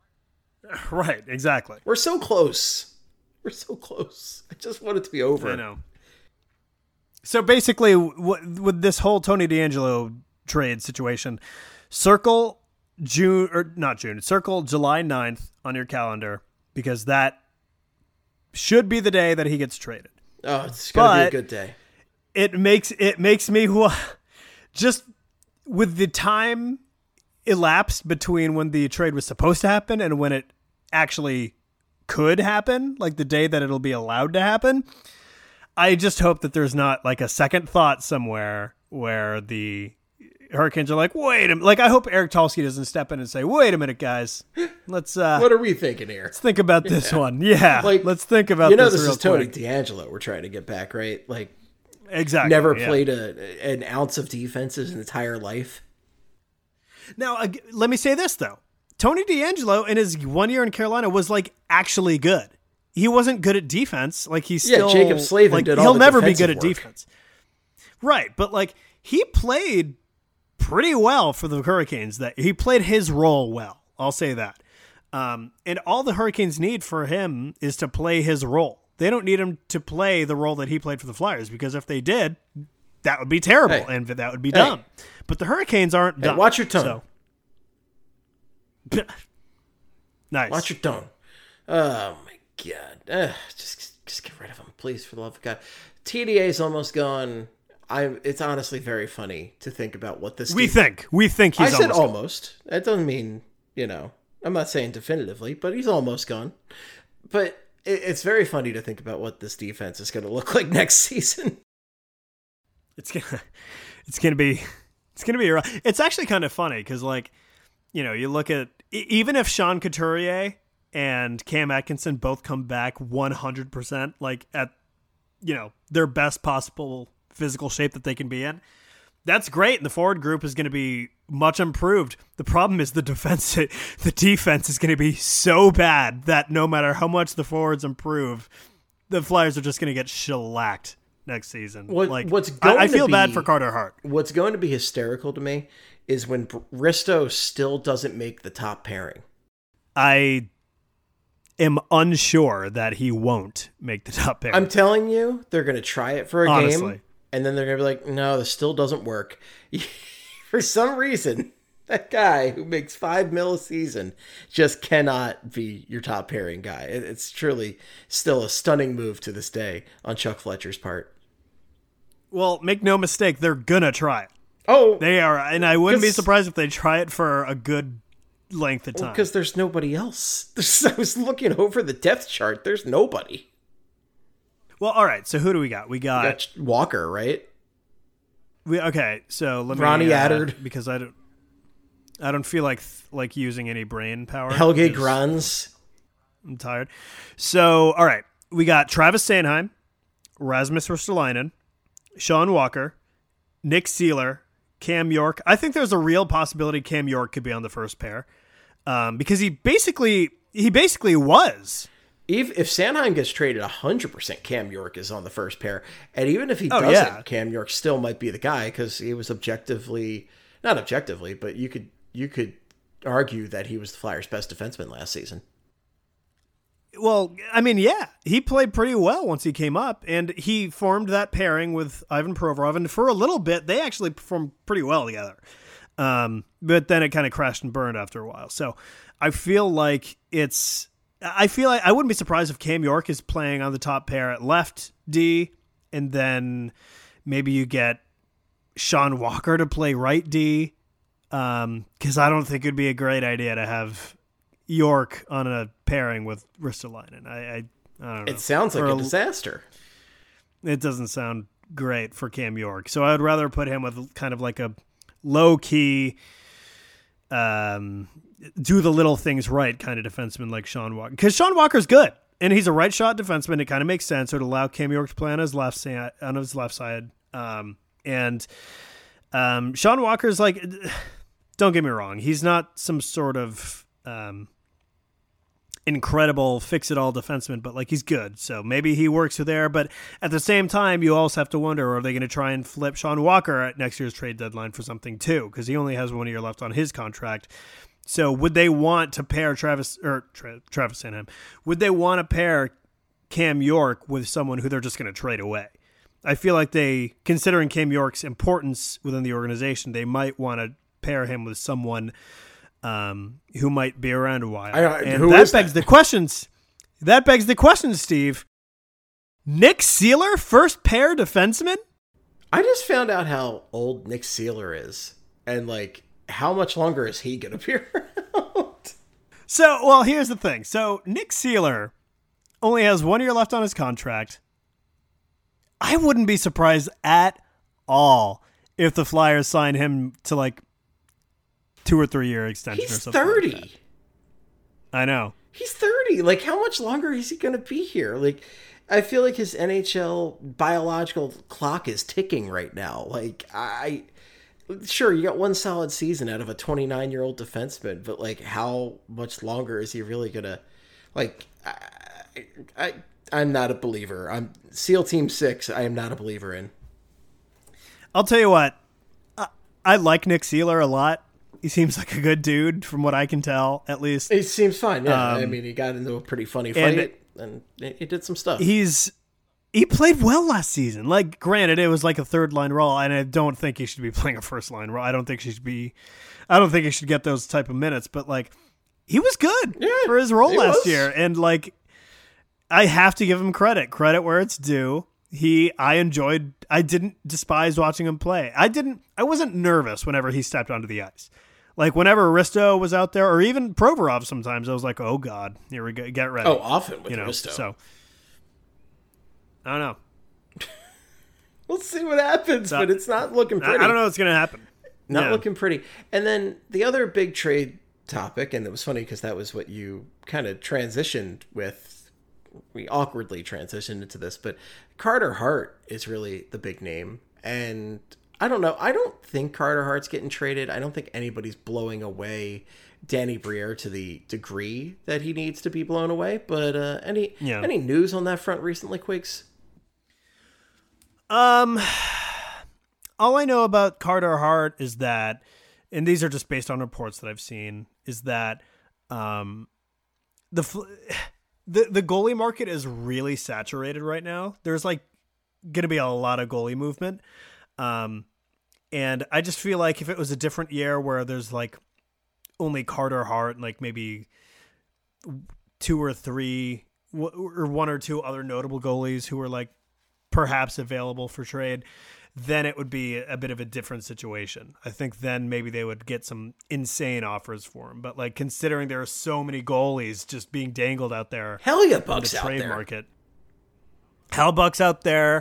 Right, exactly. We're so close. We're so close. I just want it to be over. I know. So basically, w- with this whole Tony DeAngelo trade situation, circle June, or not June, circle July ninth on your calendar, because that should be the day that he gets traded. Oh, it's going to be a good day. It makes it makes me just with the time elapsed between when the trade was supposed to happen and when it actually could happen, like the day that it'll be allowed to happen. I just hope that there's not like a second thought somewhere where the Hurricanes are like, wait a minute. Like, I hope Eric Tulsky doesn't step in and say, wait a minute, guys. Let's uh what are we thinking here? Let's think about this yeah. one. Yeah. Like, let's think about you know, this. this real is Tony quick. DeAngelo we're trying to get back, right? Like, exactly. Never yeah. played a an ounce of defense his entire life. Now, uh, let me say this, though. Tony DeAngelo in his one year in Carolina was like actually good. He wasn't good at defense. Like he's yeah, still Jacob Slavin like, did all he'll the never be good work. at defense. Right. But like he played pretty well for the Hurricanes. That he played his role well. I'll say that. Um, and all the Hurricanes need for him is to play his role. They don't need him to play the role that he played for the Flyers, because if they did, that would be terrible hey. and that would be hey. dumb. But the Hurricanes aren't Hey, dumb. watch your tone. So. Nice. Watch your tone. Oh my god! Ugh, just, just get rid of him, please, for the love of God. T D A is almost gone. I. It's honestly very funny to think about what this. We team, think. We think he's. I said almost. Gone. almost. That doesn't mean you know. I'm not saying definitively, but he's almost gone. But it, it's very funny to think about what this defense is going to look like next season. It's gonna. It's gonna be. It's gonna be. It's actually kind of funny because, like, you know, you look at even if Sean Couturier and Cam Atkinson both come back one hundred percent, like at, you know, their best possible physical shape that they can be in, that's great. And the forward group is going to be much improved. The problem is the defense, the defense is going to be so bad that no matter how much the forwards improve, the Flyers are just going to get shellacked next season. What, like, what's going I, I feel to be, bad for Carter Hart. What's going to be hysterical to me is when Risto still doesn't make the top pairing. I am unsure that he won't make the top pair. I'm telling you, they're going to try it for a Honestly. game, and then they're going to be like, no, this still doesn't work. For some reason, that guy who makes five mil a season just cannot be your top pairing guy. It's truly still a stunning move to this day on Chuck Fletcher's part. Well, make no mistake, they're going to try it. Oh, They are, and I wouldn't be surprised if they try it for a good length of time. because there's nobody else. There's, I was looking over the depth chart. There's nobody. Well, all right. So who do we got? We got, You got Walker, right? we okay. So let me Ronnie uh, Attard. because I don't, I don't feel like like using any brain power. Helge because Grans. I'm tired. So all right, we got Travis Sanheim, Rasmus Ristolainen, Sean Walker, Nick Seeler, Cam York. I think there's a real possibility Cam York could be on the first pair, um, because he basically he basically was. If, if Sanheim gets traded, one hundred percent Cam York is on the first pair. And even if he Oh, doesn't, yeah. Cam York still might be the guy because he was objectively, not objectively, but you could you could argue that he was the Flyers' best defenseman last season. Well, I mean, yeah, he played pretty well once he came up, and he formed that pairing with Ivan Provorov, and for a little bit, they actually performed pretty well together. Um, but then it kind of crashed and burned after a while. So I feel like it's, I feel like I wouldn't be surprised if Cam York is playing on the top pair at left D, and then maybe you get Sean Walker to play right D, um, because I don't think it'd be a great idea to have York on a pairing with Ristolainen. I, I, I don't know. It sounds like Or a disaster. It doesn't sound great for Cam York. So I would rather put him with kind of like a low key, um, do the little things right kind of defenseman like Sean Walker. Because Sean Walker's good, and he's a right shot defenseman. It kind of makes sense. It would allow Cam York to play on his left side, on his left side. Um, and um, Sean Walker's like, don't get me wrong, he's not some sort of um, incredible fix-it-all defenseman, but like he's good. So maybe he works there. But at the same time, you also have to wonder, are they going to try and flip Sean Walker at next year's trade deadline for something too? Because he only has one year left on his contract. So would they want to pair Travis or Tra- Travis Sanheim? Would they want to pair Cam York with someone who they're just going to trade away? I feel like they, considering Cam York's importance within the organization, they might want to pair him with someone um, who might be around a while. I, and who that is begs that? the questions. That begs the question, Steve. Nick Seeler, first pair defenseman? I just found out how old Nick Seeler is, and like how much longer is he going to be around? So, well, here's the thing. So Nick Seeler only has one year left on his contract. I wouldn't be surprised at all if the Flyers sign him to like two or three year extension or He's something. thirty. Like that. I know. He's thirty. Like, how much longer is he going to be here? Like, I feel like his N H L biological clock is ticking right now. Like, I... Sure, you got one solid season out of a twenty-nine-year-old defenseman, but, like, how much longer is he really going to... Like, I, I, I'm not a believer. I'm SEAL Team six, I am not a believer in. I'll tell you what. Uh, I like Nick Seeler a lot. He seems like a good dude from what I can tell, at least. It seems fine, yeah. Um, I mean, he got into a pretty funny fight, and, and he did some stuff. He's he played well last season. Like, granted, it was like a third line role, and I don't think he should be playing a first line role. I don't think he should be. I don't think he should get those type of minutes. But like, he was good yeah, for his role last was. year, and like, I have to give him credit. Credit where it's due. He, I enjoyed. I didn't despise watching him play. I didn't. I wasn't nervous whenever he stepped onto the ice. Like, whenever Aristo was out there, or even Provorov sometimes, I was like, oh, God, here we go. Get ready. Oh, often with you know, Aristo. So, I don't know. We'll see what happens, So, but it's not looking pretty. I, I don't know what's going to happen. Not Yeah. looking pretty. And then the other big trade topic, and it was funny because that was what you kind of transitioned with. We awkwardly transitioned into this, but Carter Hart is really the big name. And I don't know. I don't think Carter Hart's getting traded. I don't think anybody's blowing away Danny Briere to the degree that he needs to be blown away. But uh, any Yeah. any news on that front recently, Quakes? Um, all I know about Carter Hart is that, and these are just based on reports that I've seen, is that um, the fl- the the goalie market is really saturated right now. There's like going to be a lot of goalie movement. Um, and I just feel like if it was a different year where there's like only Carter Hart and like maybe two or three or one or two other notable goalies who were like perhaps available for trade, then it would be a bit of a different situation. I think then maybe they would get some insane offers for him. But like considering there are so many goalies just being dangled out there, Hell yeah, in Buck's the out trade there. market. Hellbuck's out there.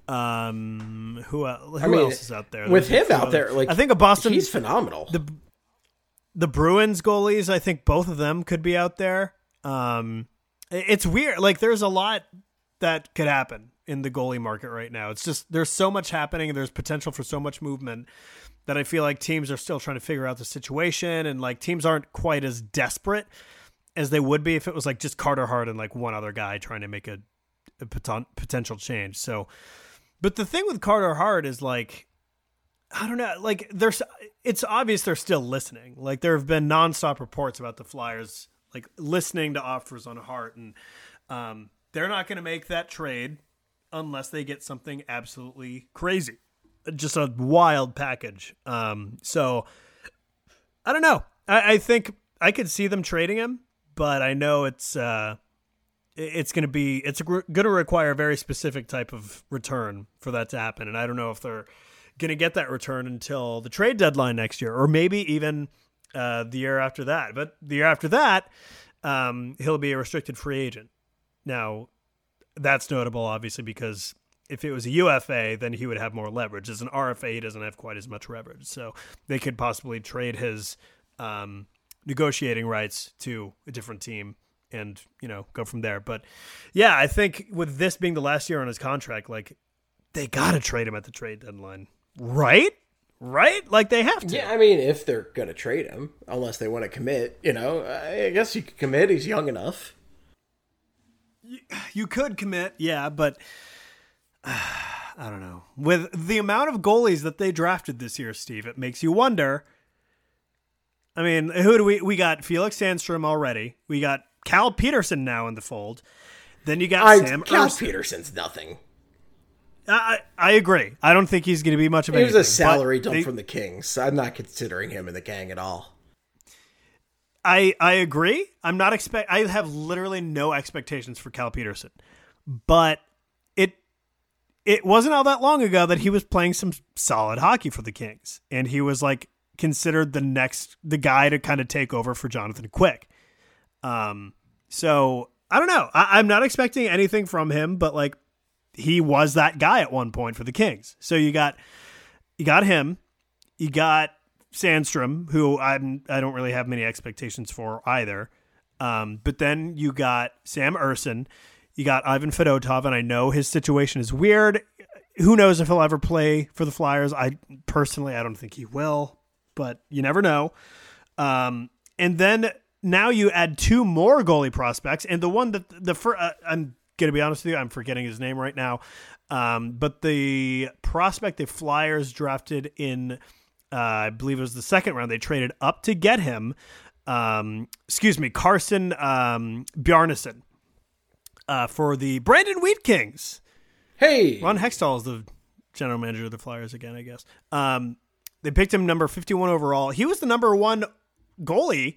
Um, who, el- who I mean, else is out there? With There's him a few out other- there, like I think a Boston. he's phenomenal. The the Bruins goalies, I think both of them could be out there. Um, it- it's weird. Like there's a lot that could happen in the goalie market right now. It's just there's so much happening and there's potential for so much movement that I feel like teams are still trying to figure out the situation, and like teams aren't quite as desperate as they would be if it was like just Carter Hart and like one other guy trying to make a, a poten- potential change. So, but the thing with Carter Hart is like, I don't know, like there's, it's obvious they're still listening. Like there have been nonstop reports about the Flyers, like listening to offers on Hart, and um, they're not going to make that trade unless they get something absolutely crazy, just a wild package. Um, so I don't know. I, I think I could see them trading him, but I know it's, uh, it's going to be, it's going to require a very specific type of return for that to happen. And I don't know if they're going to get that return until the trade deadline next year, or maybe even uh, the year after that. But the year after that, um, he'll be a restricted free agent. Now, that's notable, obviously, because if it was a U F A, then he would have more leverage. As an R F A, he doesn't have quite as much leverage. So they could possibly trade his um, negotiating rights to a different team and, you know, go from there. But yeah, I think with this being the last year on his contract, like they got to trade him at the trade deadline, right? Right? Like they have to. Yeah, I mean, if they're going to trade him, unless they want to commit, you know, I guess you could commit. He's young enough. You could commit, yeah, but uh, I don't know. With the amount of goalies that they drafted this year, Steve, it makes you wonder. I mean, who do we we got? Felix Sandstrom already. We got Cal Peterson now in the fold. Then you got I, Sam Cal Erskine. Peterson's nothing. I I agree. I don't think he's going to be much of He was anything. a salary but dump they- from the Kings. I'm not considering him in the gang at all. I I agree. I'm not expect. I have literally no expectations for Cal Peterson, but it it wasn't all that long ago that he was playing some solid hockey for the Kings, and he was like considered the next the guy to kind of take over for Jonathan Quick. Um, so I don't know. I, I'm not expecting anything from him, but like he was that guy at one point for the Kings. So you got you got him, you got Sandstrom, who I'm I don't really have many expectations for either. Um, but then you got Sam Erskine, you got Ivan Fedotov, and I know his situation is weird. Who knows if he'll ever play for the Flyers? I personally I don't think he will, but you never know. Um, and then now you add two more goalie prospects, and the one that the first, uh, I'm gonna be honest with you, I'm forgetting his name right now. Um, but the prospect the Flyers drafted in Uh, I believe it was the second round. They traded up to get him. Um, excuse me, Carson um, Bjarnason uh, for the Brandon Wheat Kings. Hey, Ron Hextall is the general manager of the Flyers again, I guess. Um, they picked him number fifty-one overall. He was the number one goalie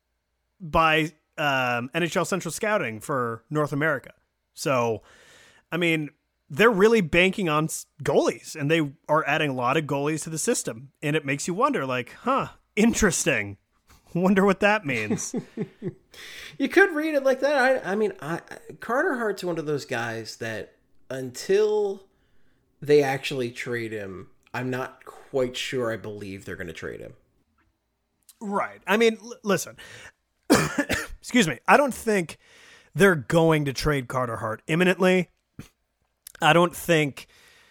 by um, N H L Central Scouting for North America. So, I mean, they're really banking on goalies, and they are adding a lot of goalies to the system. And it makes you wonder, like, huh, interesting. Wonder what that means. You could read it like that. I, I mean, I, Carter Hart's one of those guys that until they actually trade him, I'm not quite sure I believe they're going to trade him. Right. I mean, l- listen, excuse me. I don't think they're going to trade Carter Hart imminently. I don't think,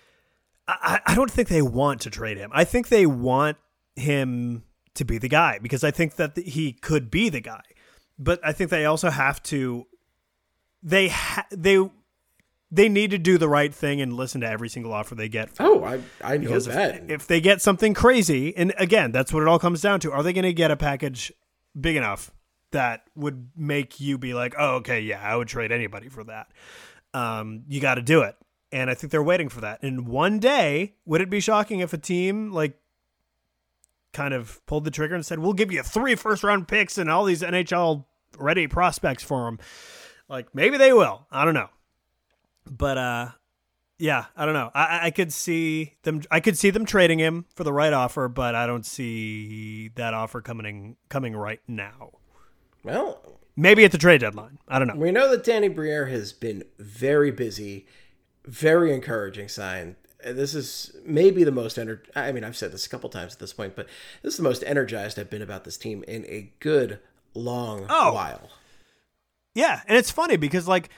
I, I don't think they want to trade him. I think they want him to be the guy because I think that he could be the guy, but I think they also have to, they, ha- they, they need to do the right thing and listen to every single offer they get. Oh, I, I know because that. If, if they get something crazy, and again, that's what it all comes down to. Are they going to get a package big enough that would make you be like, oh, okay, yeah, I would trade anybody for that. Um, you got to do it. And I think they're waiting for that. And one day, would it be shocking if a team like kind of pulled the trigger and said, we'll give you three first round picks and all these N H L ready prospects for them? Like maybe they will. I don't know. But uh, yeah, I don't know. I, I could see them. I could see them trading him for the right offer, but I don't see that offer coming coming right now. Well, maybe at the trade deadline. I don't know. We know that Danny Briere has been very busy. Very encouraging sign. This is maybe the most ener- I mean, I've said this a couple times at this point, but this is the most energized I've been about this team in a good long oh. while. Yeah, and it's funny because like.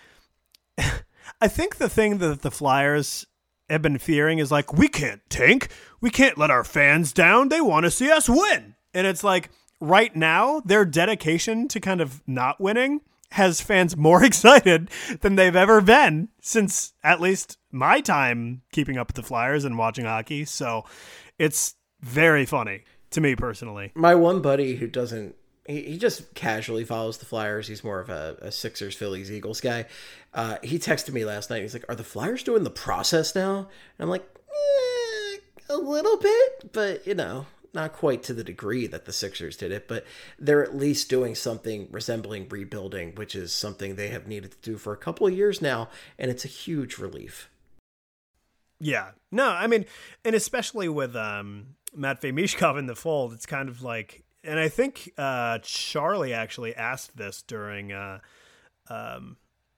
I think the thing that the Flyers have been fearing is like, we can't tank. We can't let our fans down. They want to see us win. And it's like right now, their dedication to kind of not winning has fans more excited than they've ever been since at least my time keeping up with the Flyers and watching hockey. So it's very funny to me personally. My one buddy who doesn't, he, he just casually follows the Flyers. He's more of a, a Sixers, Phillies, Eagles guy. Uh, he texted me last night. He's like, are the Flyers doing the process now? And I'm like, eh, a little bit, but you know, not quite to the degree that the Sixers did it, but they're at least doing something resembling rebuilding, which is something they have needed to do for a couple of years now. And it's a huge relief. Yeah, no, I mean, and especially with um, Matvei Mishkov in the fold, it's kind of like, and I think uh, Charlie actually asked this during uh, um,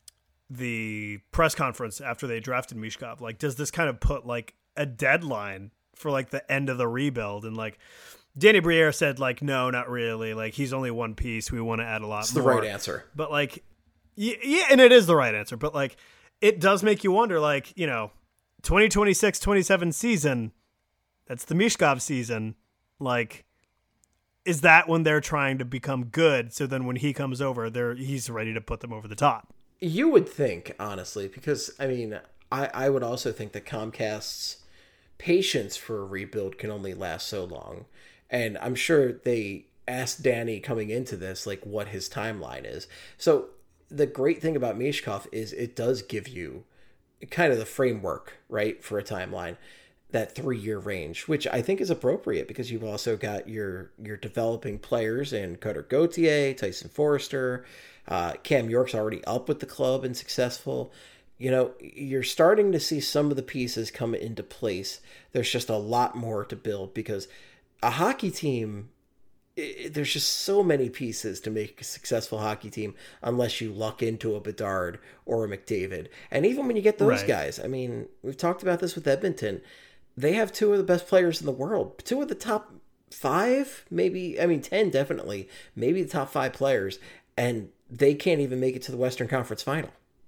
the press conference after they drafted Mishkov. Like, does this kind of put like a deadline for like the end of the rebuild? And like Danny Briere said, like, no, not really. Like, he's only one piece. We want to add a lot It's more. the right answer. But like, yeah, yeah, and it is the right answer. But like, it does make you wonder, like, you know, twenty twenty-six twenty-seven season, that's the Mishkov season. Like, is that when they're trying to become good? So then when he comes over, they're he's ready to put them over the top. You would think, honestly, because, I mean, I, I would also think that Comcast's patience for a rebuild can only last so long. And I'm sure they asked Danny coming into this, like, what his timeline is. So the great thing about Mishkov is it does give you kind of the framework, right, for a timeline, that three-year range, which I think is appropriate because you've also got your your developing players in Cutter Gauthier, Tyson Forrester, uh, Cam York's already up with the club and successful. You know, you're starting to see some of the pieces come into place. There's just a lot more to build because a hockey team, it, there's just so many pieces to make a successful hockey team unless you luck into a Bedard or a McDavid. And even when you get those right. guys, I mean, we've talked about this with Edmonton. They have two of the best players in the world. Two of the top five, maybe, I mean, ten definitely, maybe the top five players. And they can't even make it to the Western Conference Final.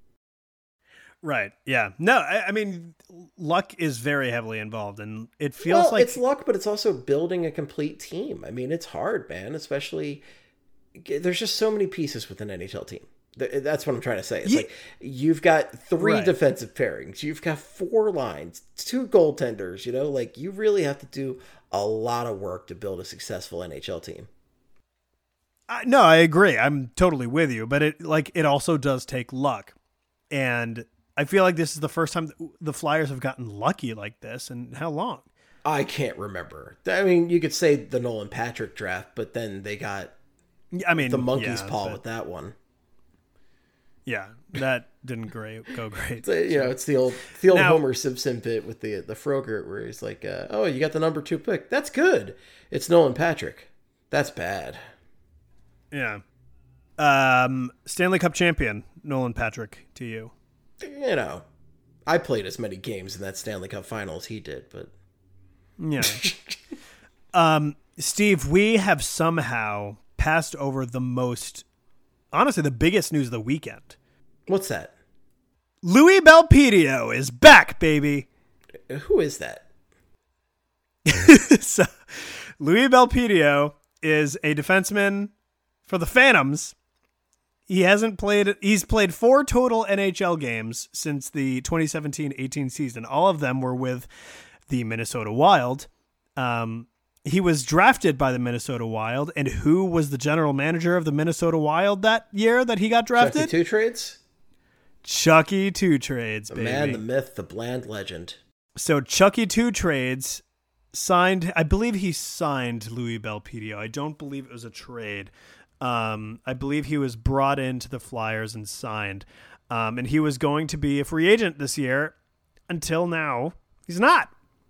Right. Yeah. No, I, I mean, luck is very heavily involved, and it feels well, like it's luck, but it's also building a complete team. I mean, it's hard, man, especially there's just so many pieces with an N H L team. That's what I'm trying to say. It's yeah. like you've got three right. defensive pairings. You've got four lines, two goaltenders, you know, like you really have to do a lot of work to build a successful N H L team. Uh, no, I agree. I'm totally with you, but it like it also does take luck. And I feel like this is the first time the Flyers have gotten lucky like this. And how long? I can't remember. I mean, you could say the Nolan Patrick draft, but then they got I mean, the monkey's yeah, paw but, with that one. Yeah, that didn't great go great. So, you know, it's the old the old Now- Homer Simpson bit with the the Frogurt where he's like, uh, "Oh, you got the number two pick. That's good. It's Nolan Patrick. That's bad." Yeah. Um, Stanley Cup champion Nolan Patrick to you. You know, I played as many games in that Stanley Cup final as he did, but Yeah. um, Steve, we have somehow passed over the most, honestly, the biggest news of the weekend. what's that? Louis Belpedio is back, baby. Who is that? So, Louis Belpedio is a defenseman for the Phantoms. He hasn't played, he's played four total N H L games since the twenty seventeen eighteen season. All of them were with the Minnesota Wild. Um, he was drafted by the Minnesota Wild. And who was the general manager of the Minnesota Wild that year that he got drafted? Chucky Two Trades? Chucky Two Trades, The baby. man, the myth, the bland legend. So Chucky Two Trades signed, I believe he signed Louis Belpedio. I don't believe it was a trade. Um, I believe he was brought into the Flyers and signed. Um, and he was going to be a free agent this year. Until now, he's not.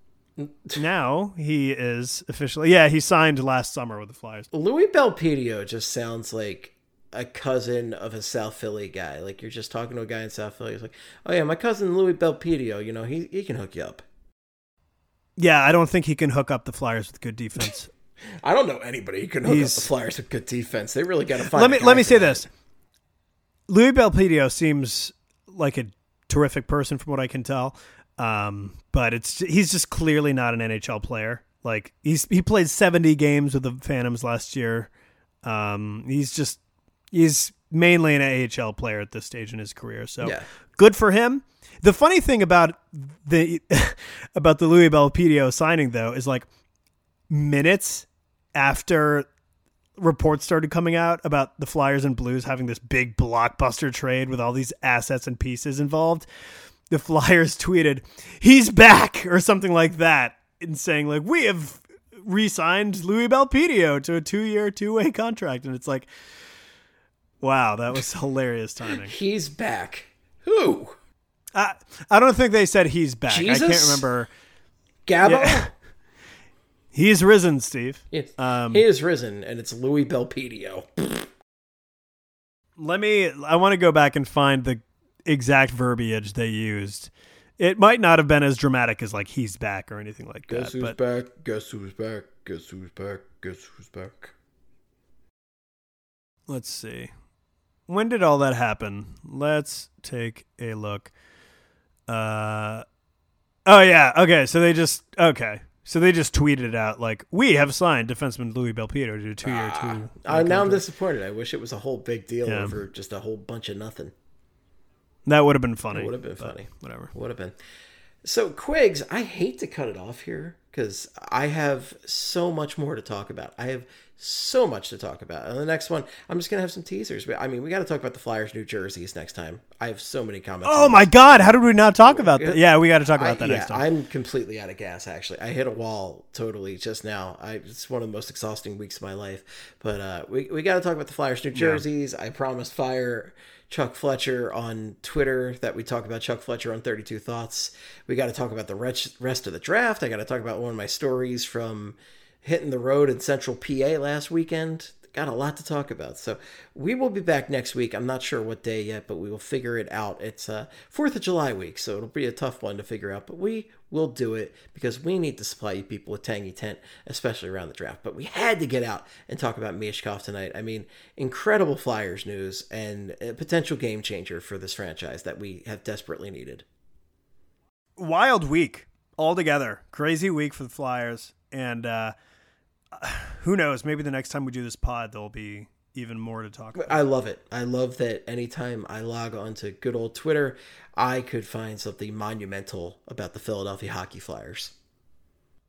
Now he is officially, yeah, he signed last summer with the Flyers. Louis Belpedio just sounds like a cousin of a South Philly guy. Like you're just talking to a guy in South Philly. He's like, "Oh yeah, my cousin Louis Belpedio. You know, he he can hook you up." Yeah, I don't think he can hook up the Flyers with good defense. I don't know anybody who can hook He's- up the Flyers with good defense. They really got to find. let a me guy let me for say that. this. Louis Belpedio seems like a terrific person from what I can tell. Um, but it's he's just clearly not an N H L player. Like he's he played seventy games with the Phantoms last year. Um, he's just he's mainly an A H L player at this stage in his career. So Yeah. good for him. The funny thing about the about the Louis Belpedio signing though is like minutes after reports started coming out about the Flyers and Blues having this big blockbuster trade with all these assets and pieces involved, the Flyers tweeted, "He's back," or something like that, and saying like, "We have re-signed Louis Belpedio to a two-year, two-way contract." And it's like, wow, that was hilarious timing. He's back. Who? I, I don't think they said he's back. Jesus? I can't remember. Gabbo? Yeah. He's risen, Steve. Yes. Um, he is risen, and it's Louis Belpedio. Let me, I want to go back and find the exact verbiage they used. It might not have been as dramatic as like he's back or anything like Guess that. who's But back? Guess who's back? Guess who's back? Guess who's back? let's see. When did all that happen? Let's take a look. Uh, oh yeah. Okay. So they just, okay. So they just tweeted it out like, "We have signed defenseman Louis Belpedio to a two-year, Ah, two." uh, now I'm contract." disappointed. I wish it was a whole big deal Yeah. over just a whole bunch of nothing. That would have been funny. It would have been but funny. Whatever. Would have been. So, Quigs, I hate to cut it off here because I have so much more to talk about. I have so much to talk about. And the next one, I'm just going to have some teasers. But I mean, we got to talk about the Flyers' New Jerseys next time. I have so many comments. Oh on my this. God! How did we not talk about that? Yeah, we got to talk about I, that yeah, next time. I'm completely out of gas, actually. I hit a wall totally just now. I, it's one of the most exhausting weeks of my life. But uh, we, we got to talk about the Flyers' New Jerseys. I promised Fire Chuck Fletcher on Twitter that we talk about Chuck Fletcher on thirty-two Thoughts. We got to talk about the rest rest of the draft. I got to talk about one of my stories from hitting the road in Central P A last weekend. Got a lot to talk about. So we will be back next week. I'm not sure what day yet, but we will figure it out. It's uh, fourth of July week, so it'll be a tough one to figure out, but we will do it because we need to supply you people with Tangy Tent, especially around the draft. But we had to get out and talk about Michkov tonight. I mean, incredible Flyers news and a potential game changer for this franchise that we have desperately needed. Wild week altogether. Crazy week for the Flyers. And uh, who knows? Maybe the next time we do this pod, there'll be even more to talk about. I love it. I love that anytime I log on to good old Twitter, I could find something monumental about the Philadelphia Hockey Flyers.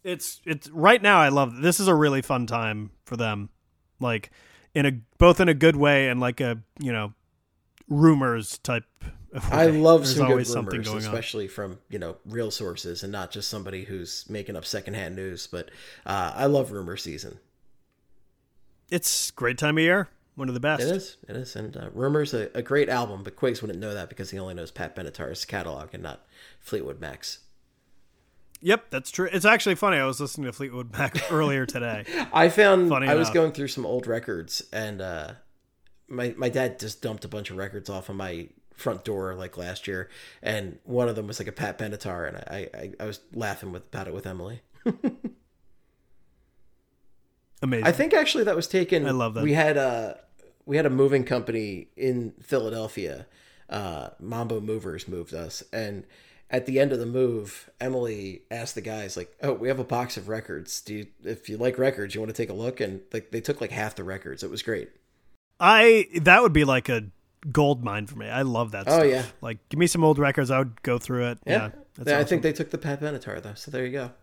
It's it's right now. I love this. Is a really fun time for them, like in a both in a good way and like a you know rumors type. Of way. I love There's some good always rumors, something going especially from you know real sources and not just somebody who's making up secondhand news. But uh, I love rumor season. It's a great time of year. One of the best. It is. It is. And uh, Rumor's a, a great album, but Quiggs wouldn't know that because he only knows Pat Benatar's catalog and not Fleetwood Mac's. Yep, that's true. It's actually funny. I was listening to Fleetwood Mac earlier today. I found Funny I was enough. going through some old records, and uh, my my dad just dumped a bunch of records off of my front door like last year, and one of them was like a Pat Benatar, and I I, I was laughing with about it with Emily. Amazing. I think actually that was taken. I love that. We had a we had a moving company in Philadelphia. Uh, Mambo Movers moved us, and at the end of the move, Emily asked the guys like, "Oh, we have a box of records. Do you, if you like records, you want to take a look?" And like they took like half the records. It was great. I that would be like a gold mine for me. I love that. Oh, stuff. yeah. Like give me some old records. I would go through it. Yeah, Yeah, that's I awesome. think they took the Pat Benatar though. So there you go.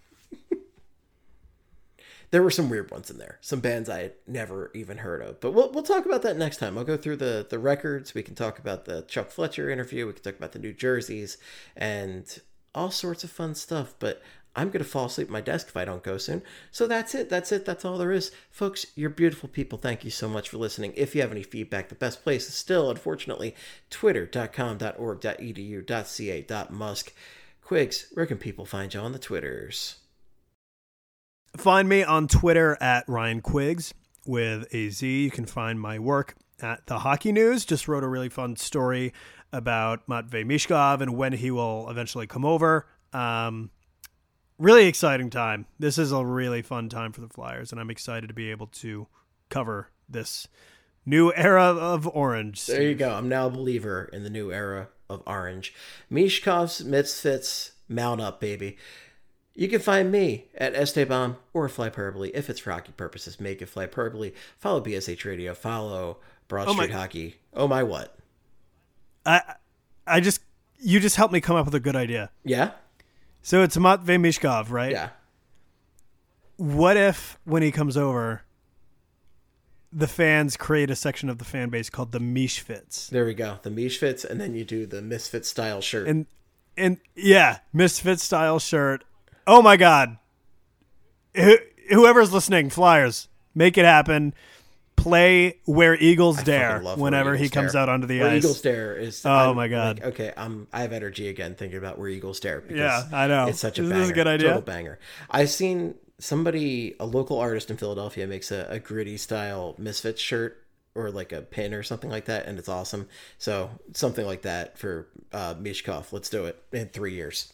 There were some weird ones in there, some bands I had never even heard of. But we'll we'll talk about that next time. I'll go through the the records. We can talk about the Chuck Fletcher interview. We can talk about the New Jerseys and all sorts of fun stuff. But I'm gonna fall asleep at my desk if I don't go soon. So that's it. That's it. That's all there is, folks. You're beautiful people. Thank you so much for listening. If you have any feedback, the best place is still, unfortunately, twitter dot com dot org dot e d u dot c a dot musk. Quiggs, where can people find you on the Twitters? Find me on Twitter at Ryan Quiggs with a Z. You can find my work at The Hockey News. Just wrote a really fun story about Matvei Mishkov and when he will eventually come over. Um, really exciting time. This is a really fun time for the Flyers, and I'm excited to be able to cover this new era of Orange. There you go. I'm now a believer in the new era of Orange. Mishkov's Misfits, mount up, baby. You can find me at Esteban or Flyperbole. If it's for hockey purposes, make it Flyperbole. Follow B S H Radio. Follow Broad Oh my- Street Hockey. Oh my what? I, I just you just helped me come up with a good idea. Yeah? So it's Matvei Mishkov, right? Yeah. What if when he comes over, the fans create a section of the fan base called the Mishfits? There we go. The Misfits, and then you do the Misfit style shirt. And and yeah, Misfit style shirt. Oh my God! Wh- whoever's listening, Flyers, make it happen. Play Where Eagles I Dare fucking love Where whenever he Eagles comes Dare. out onto the Where ice. Eagles Dare is. Oh, I'm my God. like, okay, I'm. I have energy again thinking about Where Eagles Dare. Because Yeah, I know. It's such a Isn't banger. this a good idea? Total banger. I've seen somebody, a local artist in Philadelphia, makes a, a gritty style Misfits shirt or like a pin or something like that, and it's awesome. So something like that for uh, Mishkov. Let's do it in three years.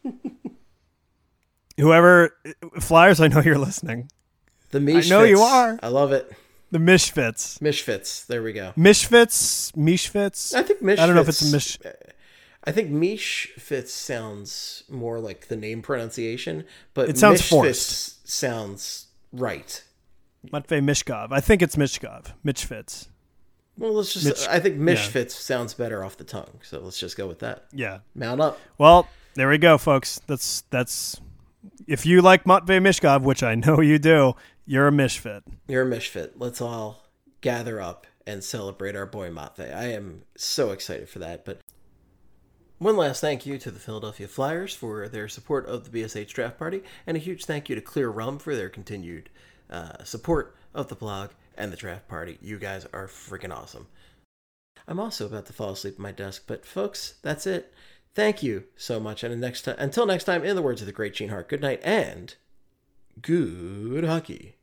Whoever Flyers, I know you're listening. The Mishfits. know you are. I love it. The Mishfits. Mishfits. There we go. Mishfits. Mishfits. I think Mishfits. I don't know if it's a Mish. I think Mishfits sounds more like the name pronunciation, but It sounds Mishfits forced. sounds right. Matvei Mishkov. I think it's Mishkov. Mishfits. Well, let's just. Mitch- I think yeah. Mishfits sounds better off the tongue, so let's just go with that. Yeah. Mount up. Well, there we go, folks. That's that's. If you like Matvei Mishkov, which I know you do, you're a Mishfit. You're a Mishfit. Let's all gather up and celebrate our boy Matvei. I am so excited for that. But one last thank you to the Philadelphia Flyers for their support of the B S H Draft Party, and a huge thank you to Clear Rum for their continued uh, support of the blog and the Draft Party. You guys are freaking awesome. I'm also about to fall asleep at my desk, but folks, that's it. Thank you so much, and next time, until next time, in the words of the great Gene Hart, good night and good hockey.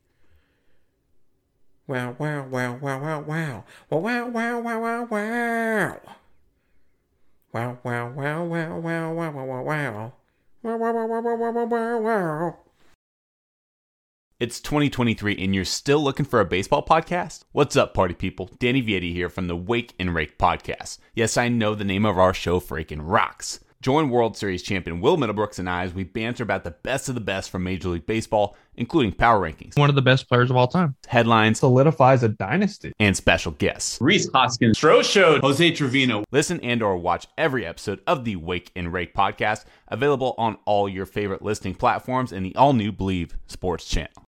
Wow, wow, wow, wow, wow, wow. Wow, wow, wow, wow, wow, wow. Wow, wow, wow, wow, wow, wow, wow, wow, wow. Wow, wow, wow, wow, wow, wow, wow, wow. It's twenty twenty-three and you're still looking for a baseball podcast? What's up, party people? Danny Vietti here from the Wake and Rake podcast. Yes, I know the name of our show freaking rocks. Join World Series champion Will Middlebrooks and I as we banter about the best of the best from Major League Baseball, including power rankings, One of the best players of all time. headlines, Solidifies a dynasty. and special guests. Rhys Hoskins, Stro Show, Jose Trevino. Listen and or watch every episode of the Wake and Rake podcast, available on all your favorite listening platforms and the all-new Believe Sports channel.